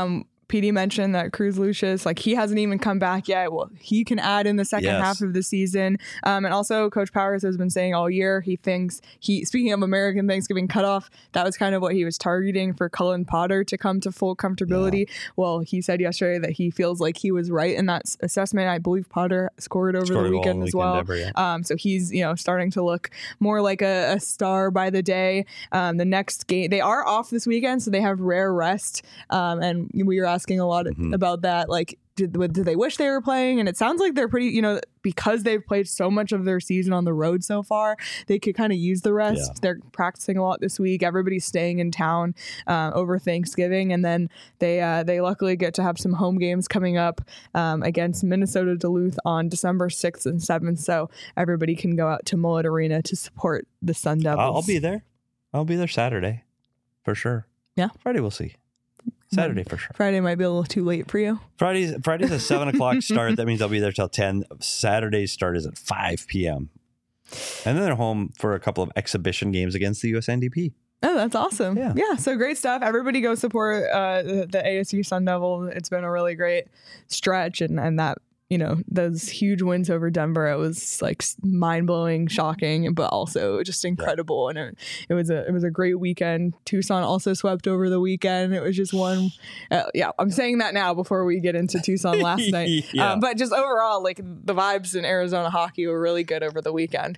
PD mentioned that Cruz Lucius, like he hasn't even come back yet. Well, he can add in the second Yes. half of the season. And also Coach Powers has been saying all year, he thinks speaking of American Thanksgiving cutoff, that was kind of what he was targeting for Cullen Potter to come to full comfortability. Yeah. Well, he said yesterday that he feels like he was right in that assessment. I believe Potter scored over the weekend as well. Ever, yeah. So he's, starting to look more like a star by the day. The next game, they are off this weekend, so they have rare rest. And we were asking a lot about that. Like, did they wish they were playing? And it sounds like they're pretty, because they've played so much of their season on the road so far, they could kind of use the rest. Yeah. They're practicing a lot this week. Everybody's staying in town over Thanksgiving. And then they luckily get to have some home games coming up against Minnesota Duluth on December 6th and 7th. So everybody can go out to Mullet Arena to support the Sun Devils. I'll be there. I'll be there Saturday for sure. Yeah. Friday we'll see. Saturday for sure. Friday might be a little too late for you. Friday's a 7:00 start. That means I'll be there till 10. Saturday's start is at 5 p.m. And then they're home for a couple of exhibition games against the USNDP. Oh, that's awesome. Yeah. So great stuff. Everybody go support the ASU Sun Devils. It's been a really great stretch. And that, those huge wins over Denver, it was like mind-blowing, shocking, but also just incredible. Yeah. And it was a great weekend. Tucson also swept over the weekend. It was just one. I'm saying that now before we get into Tucson last night. Yeah. But just overall, like the vibes in Arizona hockey were really good over the weekend.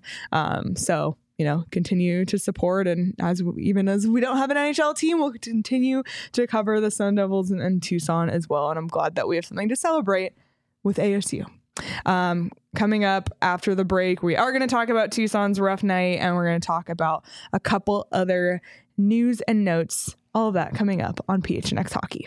So continue to support. And even as we don't have an NHL team, we'll continue to cover the Sun Devils and Tucson as well. And I'm glad that we have something to celebrate with ASU. Coming up after the break, we are going to talk about Tucson's rough night, and we're going to talk about a couple other news and notes. All of that coming up on PHNX Hockey.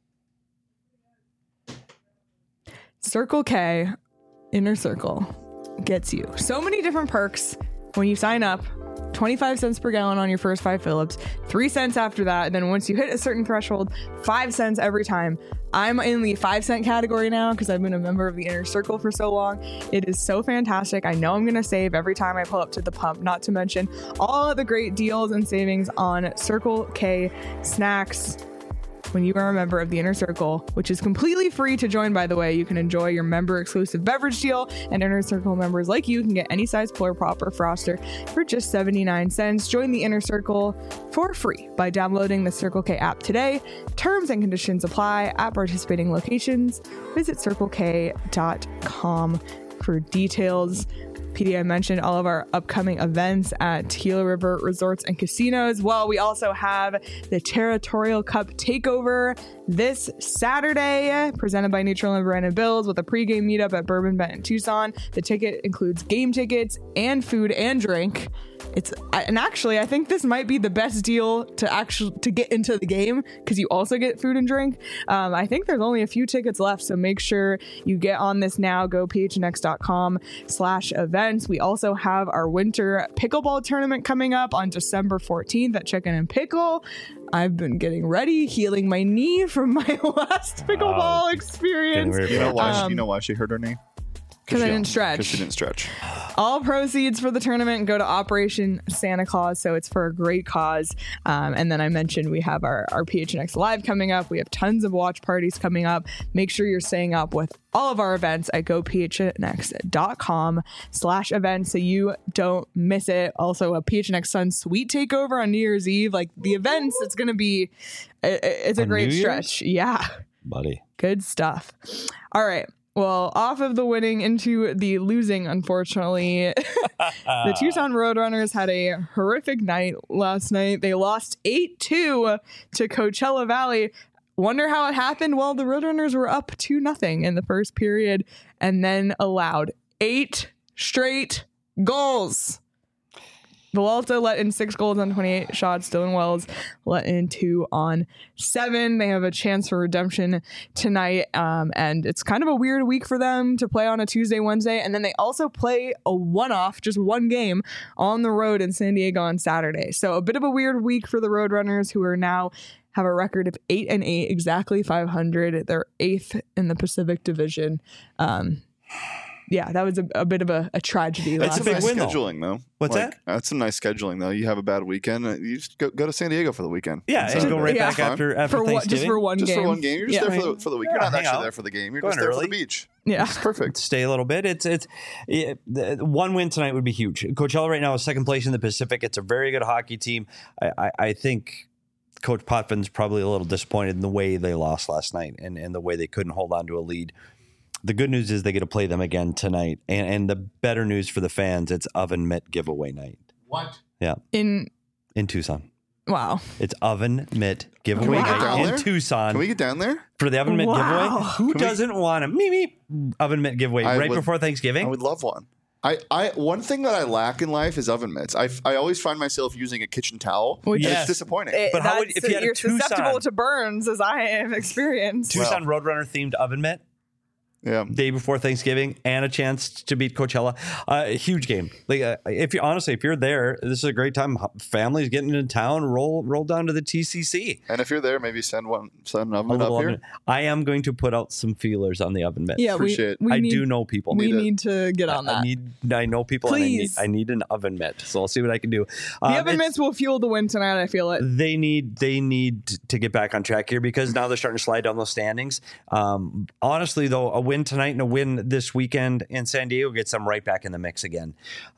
Circle K Inner Circle gets you so many different perks when you sign up. 25 cents per gallon on your first 5 fill-ups, 3 cents after that. And then once you hit a certain threshold, 5 cents every time. I'm in the 5 cent category now because I've been a member of the Inner Circle for so long. It is so fantastic. I know I'm going to save every time I pull up to the pump, not to mention all of the great deals and savings on Circle K snacks. When you are a member of the Inner Circle, which is completely free to join, by the way, you can enjoy your member-exclusive beverage deal, and Inner Circle members like you can get any size Polar Pop or Froster for just 79 cents. Join the Inner Circle for free by downloading the Circle K app today. Terms and conditions apply at participating locations. Visit CircleK.com for details. PD, I mentioned all of our upcoming events at Gila River Resorts and Casinos. Well, we also have the Territorial Cup Takeover this Saturday, presented by Neutral and Brandon Bills, with a pregame meetup at Bourbon Bent in Tucson. The ticket includes game tickets and food and drink. and actually I think this might be the best deal to get into the game, because you also get food and drink. I think there's only a few tickets left, so make sure you get on this now. Go phnx.com/events. We also have our winter pickleball tournament coming up on December 14th at Chicken and Pickle. I've been getting ready, healing my knee from my last pickleball experience. You know why she hurt her knee? Because I didn't stretch. Because she didn't stretch. All proceeds for the tournament go to Operation Santa Claus, so it's for a great cause. And then I mentioned we have our PHNX Live coming up. We have tons of watch parties coming up. Make sure you're staying up with all of our events at gophnx.com/events so you don't miss it. Also, a PHNX Sun Suite takeover on New Year's Eve. Like the events, it's going to be, it's a great stretch. Yeah. Buddy. Good stuff. All right. Well, off of the winning into the losing, unfortunately. The Tucson Roadrunners had a horrific night last night. They lost 8-2 to Coachella Valley. Wonder how it happened? Well, the Roadrunners were up 2-0 in the first period and then allowed 8 straight goals. Villalta let in 6 goals on 28 shots. Dylan Wells let in 2 on 7. They have a chance for redemption tonight. And it's kind of a weird week for them to play on a Tuesday, Wednesday. And then they also play a one-off, just one game on the road in San Diego on Saturday. So a bit of a weird week for the Roadrunners, who are now have a record of 8-8, exactly 500. They're 8th in the Pacific Division. Yeah, that was a bit of a tragedy. That's a big win, though. scheduling, though. What's that? That's some nice scheduling, though. You have a bad weekend, you just go to San Diego for the weekend. Yeah, and go right back after Thanksgiving. Just for one game. Just for one game. You're just there for the week. You're not actually there for the game. You're just there for the beach. Yeah, it's perfect. Stay a little bit. It's one win tonight would be huge. Coachella right now is second place in the Pacific. It's a very good hockey team. I think Coach Potvin's probably a little disappointed in the way they lost last night and the way they couldn't hold on to a lead. The good news is they get to play them again tonight. And the better news for the fans, it's Oven Mitt giveaway night. What? Yeah. In Tucson. Wow. It's Oven Mitt giveaway night in Tucson. Can we get down there? For the Oven Mitt giveaway? Who doesn't want a Oven Mitt giveaway before Thanksgiving? I would love one. I one thing that I lack in life is oven mitts. I always find myself using a kitchen towel. It's disappointing. But how would, if you had you're susceptible to burns, as I have experienced. Tucson Roadrunner themed oven mitt? Yeah, day before Thanksgiving and a chance to beat Coachella. A huge game. Like if you're there, this is a great time. Families getting into town, roll down to the TCC. And if you're there, maybe send an oven mitt up here. I am going to put out some feelers on the oven mitt. Yeah, I do know people. We need to get on that. I know people. Please. And I need an oven mitt. So I'll see what I can do. The oven mitts will fuel the win tonight. I feel it. They need to get back on track here because now they're starting to slide down those standings. Honestly, though, a win tonight and a win this weekend in San Diego gets them right back in the mix again.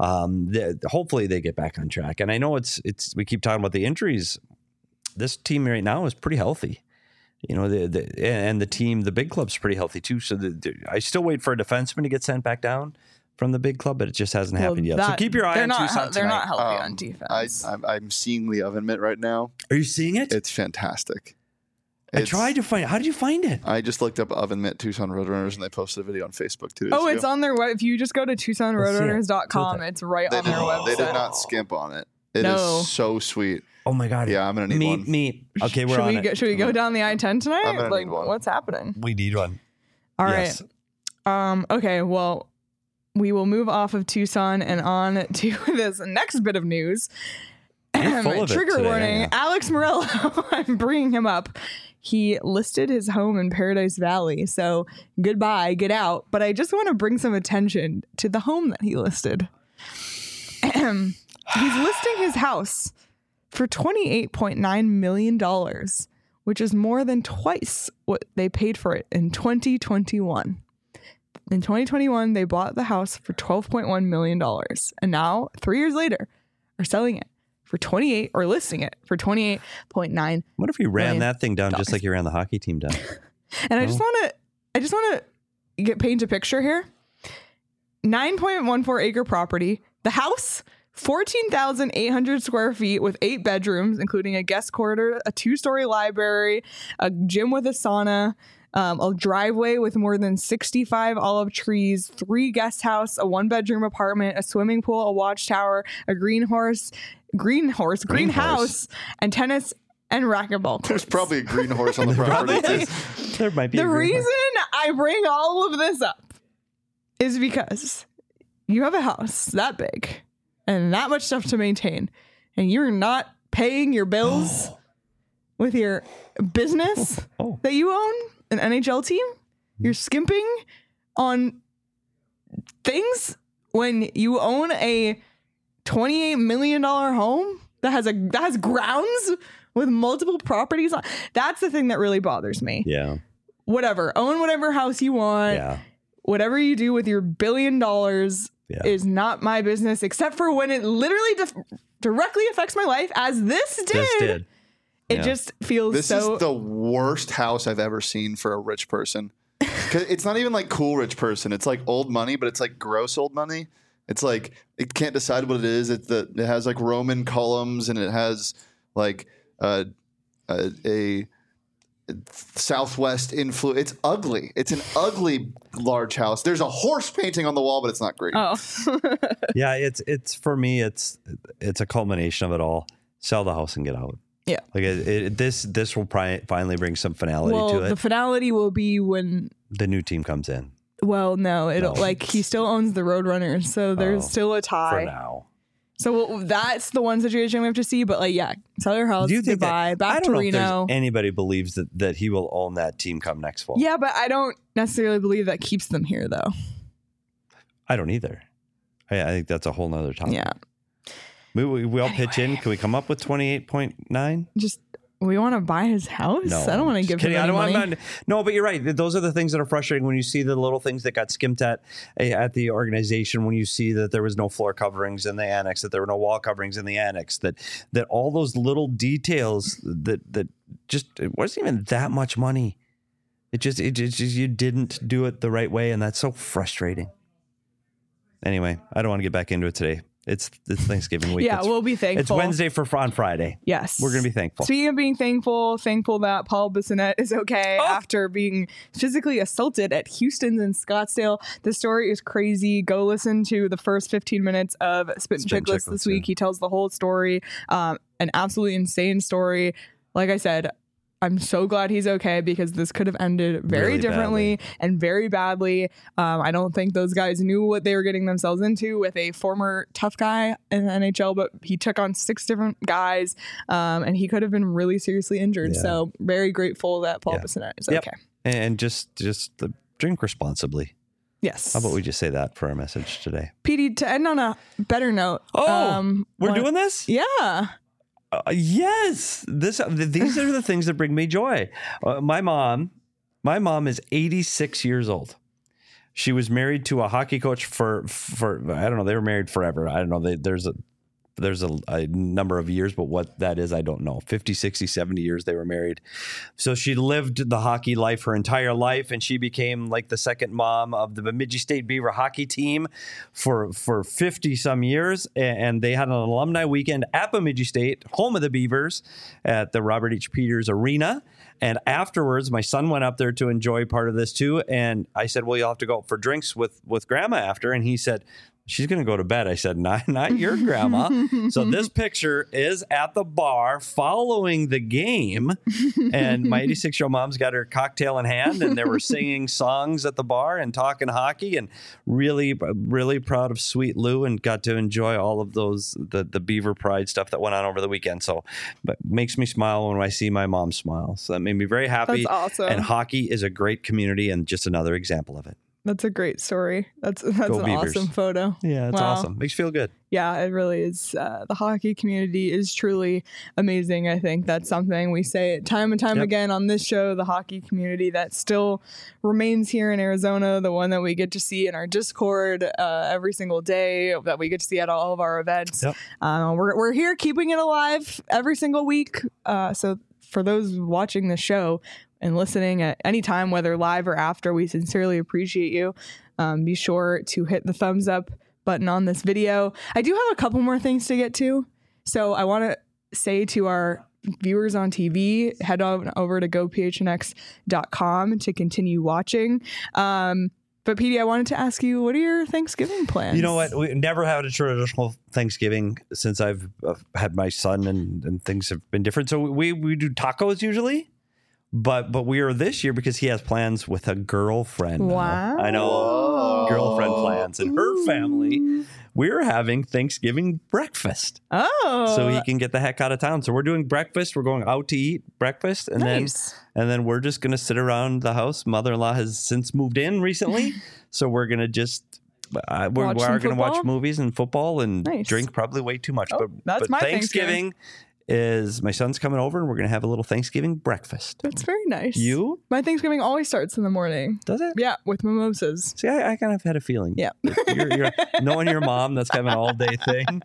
Hopefully they get back on track. And I know it's we keep talking about the injuries. This team right now is pretty healthy. You know, and the team, the big club's pretty healthy too. So I still wait for a defenseman to get sent back down from the big club, but it just hasn't happened yet. So keep your eye on Tucson tonight. They're not healthy on defense. I'm seeing the oven mitt right now. Are you seeing it? It's fantastic. I tried to find it. How did you find it? I just looked up Oven Mitt Tucson Roadrunners and they posted a video on Facebook 2 days ago. It's on their web. If you just go to TucsonRoadrunners.com, it's right on their website. They did not skimp on it. It is so sweet. Oh my God. Yeah, I'm going to need one. Okay, we're on it. Should we go down the I-10 tonight? I'm going to need one. What's happening? We need one. All right. Okay, well, we will move off of Tucson and on to this next bit of news. Trigger warning, Alex Morello. I'm bringing him up. He listed his home in Paradise Valley, so goodbye, get out. But I just want to bring some attention to the home that he listed. He's listing his house for $28.9 million, which is more than twice what they paid for it in 2021. In 2021, they bought the house for $12.1 million. And now, 3 years later, are selling it for listing it for $28.9. What if you ran that thing down just like you ran the hockey team down? And I just want to paint a picture here. 9.14 acre property. The house, 14,800 square feet with 8 bedrooms, including a guest quarter, a 2-story library, a gym with a sauna, a driveway with more than 65 olive trees, 3 guest house, a 1-bedroom apartment, a swimming pool, a watchtower, a greenhouse, and tennis and racquetball courts. There's probably a green horse on the property. There might be. The reason I bring all of this up is because you have a house that big and that much stuff to maintain, and you're not paying your bills with your business that you own, an NHL team. You're skimping on things when you own a $28 million home that has grounds with multiple properties on. That's the thing that really bothers me. Yeah. Whatever. Own whatever house you want. Yeah. Whatever you do with your $1 billion is not my business, except for when it literally directly affects my life, as this did. It just feels This is the worst house I've ever seen for a rich person. 'Cause it's not even like cool rich person. It's like old money, but it's like gross old money. It's like it can't decide what it is. It has like Roman columns, and it has like a Southwest influence. It's ugly. It's an ugly large house. There's a horse painting on the wall, but it's not great. Oh. Yeah, it's for me. It's a culmination of it all. Sell the house and get out. Yeah. Like this will probably finally bring some finality to it. The finality will be when the new team comes in. Well, no, like he still owns the Roadrunners, so there's still a tie For now. So that's the one situation we have to see. But like, yeah, sell your house, Do you think goodbye, that, back I to don't know Reno. if anybody believes that he will own that team come next fall. Yeah, but I don't necessarily believe that keeps them here, though. I don't either. I think that's a whole nother topic. Yeah. We all pitch in. Can we come up with 28.9? Just we want to buy his house. No, I don't want to give him any money. No, but you're right. Those are the things that are frustrating when you see the little things that got skimped at the organization. When you see that there was no floor coverings in the annex, that there were no wall coverings in the annex, that all those little details that just it wasn't even that much money. It just you didn't do it the right way, and that's so frustrating. Anyway, I don't want to get back into it today. It's Thanksgiving week. Yeah, we'll be thankful. It's Wednesday on Friday. Yes. We're going to be thankful. Speaking of being thankful that Paul Bissonnette is okay after being physically assaulted at Houston's in Scottsdale. The story is crazy. Go listen to the first 15 minutes of Spit and Chicklets this week. He tells the whole story. An absolutely insane story. Like I said, I'm so glad he's okay, because this could have ended very Really differently and very badly. I don't think those guys knew what they were getting themselves into with a former tough guy in the NHL, but he took on 6 different guys, and he could have been really seriously injured. Yeah. So very grateful that Paul Bissonnette is okay. And just drink responsibly. Yes. How about we just say that for our message today? PD, to end on a better note. We're doing this? Yeah. Yes, these are the things that bring me joy. My mom is 86 years old. She was married to a hockey coach for I don't know. They were married forever. I don't know. There's a number of years, but what that is, I don't know. 50, 60, 70 years they were married. So she lived the hockey life her entire life, and she became like the second mom of the Bemidji State Beaver hockey team for 50 some years. And they had an alumni weekend at Bemidji State, home of the Beavers, at the Robert H. Peters Arena. And afterwards, my son went up there to enjoy part of this too. And I said, well, you'll have to go out for drinks with grandma after. And he said, she's going to go to bed. I said, not your grandma. So this picture is at the bar following the game. And my 86-year-old mom's got her cocktail in hand, and they were singing songs at the bar and talking hockey, and really, really proud of Sweet Lou, and got to enjoy all of those, the Beaver Pride stuff that went on over the weekend. So but makes me smile when I see my mom smile. So that made me very happy. That's awesome. And hockey is a great community, and just another example of it. That's a great story. That's an Beavers. awesome photo. Yeah, it's awesome. Makes you feel good. Yeah, it really is. The hockey community is truly amazing. I think that's something we say time and time again on this show. The hockey community that still remains here in Arizona, the one that we get to see in our Discord every single day, that we get to see at all of our events. Yep. We're here keeping it alive every single week. So for those watching the show and listening at any time, whether live or after, we sincerely appreciate you. Be sure to hit the thumbs up button on this video. I do have a couple more things to get to. So I want to say to our viewers on TV, head on over to gophnx.com to continue watching. But Petey, I wanted to ask you, what are your Thanksgiving plans? You know what? We never had a traditional Thanksgiving since I've had my son, and things have been different. So we do tacos usually, but we are this year because he has plans with a girlfriend. Wow. I know, girlfriend plans, and her family. We're having Thanksgiving breakfast. Oh. So he can get the heck out of town. So we're doing breakfast. We're going out to eat breakfast. And Nice. then we're just going to sit around the house. Mother-in-law has since moved in recently. So we're going to just, we're Watch some going to watch football? movies and football and Nice. drink probably way too much. Oh, that's my Thanksgiving. Is my son's coming over and we're going to have a little Thanksgiving breakfast. That's very nice. You? My Thanksgiving always starts in the morning. Does it? Yeah, with mimosas. See, I kind of had a feeling. Yeah. You're knowing your mom, that's kind of an all-day thing.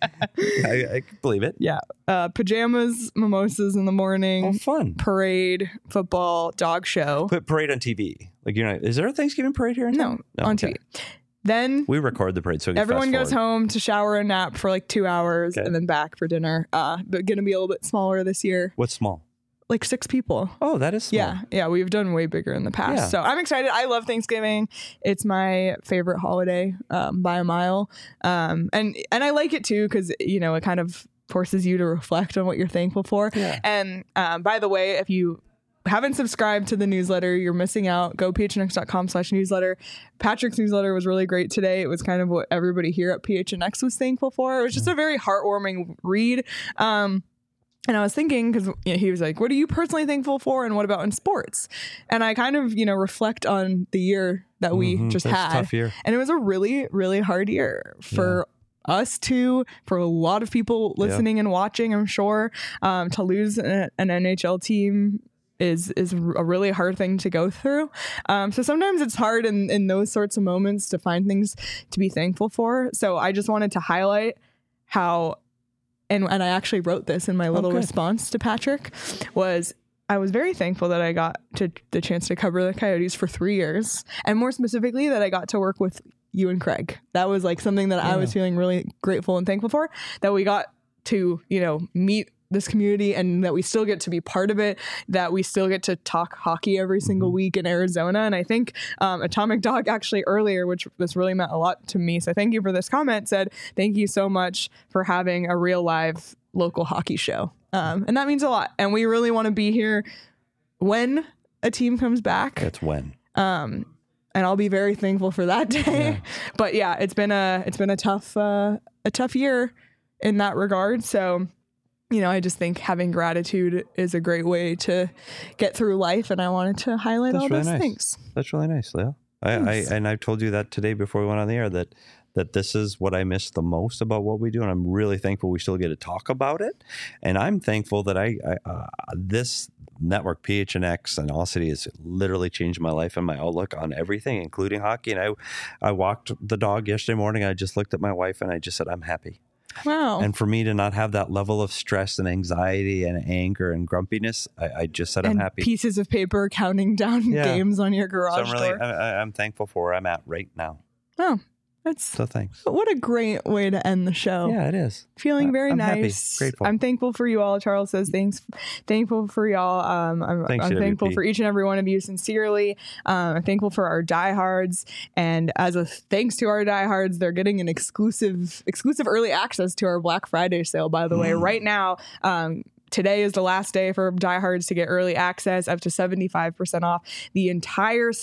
I can believe it. Yeah. Pajamas, mimosas in the morning. Oh, fun. Parade, football, dog show. Put parade on TV. Like, you're not, is there a Thanksgiving parade here in No, town? on okay. TV. Then We record the parade, so we can everyone fast goes forward. home to shower and nap for like 2 hours Okay. and then back for dinner. But going to be a little bit smaller this year. What's small? Like 6 people. Oh, that is small. Yeah, we've done way bigger in the past. Yeah. So I'm excited. I love Thanksgiving. It's my favorite holiday by a mile. And I like it too because, you know, it kind of forces you to reflect on what you're thankful for. Yeah. And by the way, if you haven't subscribed to the newsletter, you're missing out. Go phnx.com/newsletter. Patrick's newsletter was really great today. It was kind of what everybody here at PHNX was thankful for. It was just a very heartwarming read. And I was thinking, because he was like, what are you personally thankful for? And what about in sports? And I kind of, reflect on the year that we just That's a had. tough year. And it was a really, really hard year for us too, for a lot of people listening and watching, I'm sure. To lose an NHL team is a really hard thing to go through. So sometimes it's hard in those sorts of moments to find things to be thankful for. So I just wanted to highlight how, and I actually wrote this in my little good. response to Patrick, was I was very thankful that I got the chance to cover the Coyotes for 3 years. And more specifically, that I got to work with you and Craig. That was like something that I was feeling really grateful and thankful for, that we got to, meet this community and that we still get to be part of it, that we still get to talk hockey every single week in Arizona. And I think Atomic Dog actually earlier, which this really meant a lot to me, so thank you for this comment, said, thank you so much for having a real live local hockey show. And that means a lot. And we really want to be here when a team comes back. That's when. And I'll be very thankful for that day. Yeah. But yeah, it's been a tough year in that regard. So, I just think having gratitude is a great way to get through life, and I wanted to highlight all those things. That's really nice, Leah. I told you that today before we went on the air, that this is what I miss the most about what we do, and I'm really thankful we still get to talk about it. And I'm thankful that this network, PHNX and All City, has literally changed my life and my outlook on everything, including hockey. And I walked the dog yesterday morning. I just looked at my wife and I just said, I'm happy. Wow. And for me to not have that level of stress and anxiety and anger and grumpiness, I just said I'm happy. Pieces of paper counting down games on your garage door. I'm thankful for where I'm at right now. Oh, so thanks. What a great way to end the show. Yeah, it is. Feeling very I'm nice. Happy, grateful. I'm thankful for you all. Charles says thankful for y'all. I'm thankful for each and every one of you sincerely. I'm thankful for our diehards, and as a thanks to our diehards, they're getting an exclusive early access to our Black Friday sale. By the way, right now. Today is the last day for diehards to get early access, up to 75% off the entire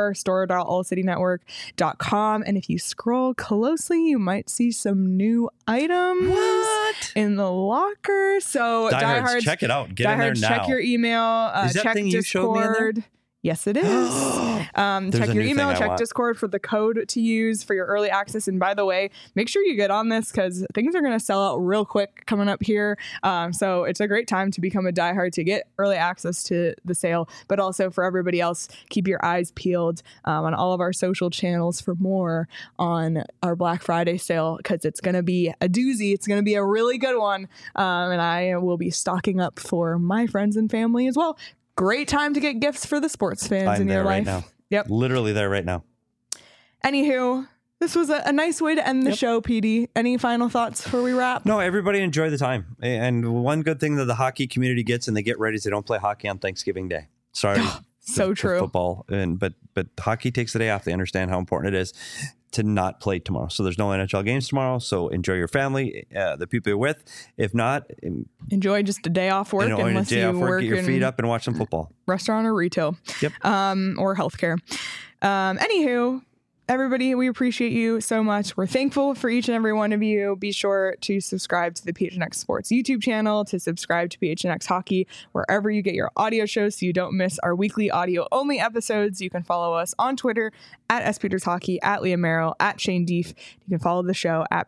store.allcitynetwork.com. And if you scroll closely, you might see some new items in the locker. So diehards, check it out. Get in there now. Check your email. Is that check thing Discord. You showed me in there? Yes, it is. Check your email, check Discord for the code to use for your early access. And by the way, make sure you get on this because things are going to sell out real quick coming up here. So it's a great time to become a diehard to get early access to the sale. But also for everybody else, keep your eyes peeled on all of our social channels for more on our Black Friday sale because it's going to be a doozy. It's going to be a really good one. And I will be stocking up for my friends and family as well. Great time to get gifts for the sports fans in your life. Right now. Yep. Literally there right now. Anywho, This was a nice way to end the show, PD. Any final thoughts before we wrap? No, everybody enjoy the time. And one good thing that the hockey community gets and they get ready is they don't play hockey on Thanksgiving Day. Sorry. So true. Football. But hockey takes the day off. They understand how important it is to not play tomorrow. So there's no NHL games tomorrow. So enjoy your family, the people you're with. If not, enjoy just a day off work. Unless you work, get your feet up and watch some football. Restaurant or retail. Yep. Or healthcare. Anywho, everybody, we appreciate you so much. We're thankful for each and every one of you. Be sure to subscribe to the PHNX Sports YouTube channel, to subscribe to PHNX Hockey, wherever you get your audio shows so you don't miss our weekly audio-only episodes. You can follow us on Twitter at SPetersHockey, at Liam Merrill, at Shane Deef. You can follow the show at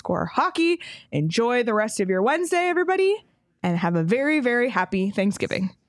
PHNX_hockey. Enjoy the rest of your Wednesday, everybody, and have a very, very happy Thanksgiving.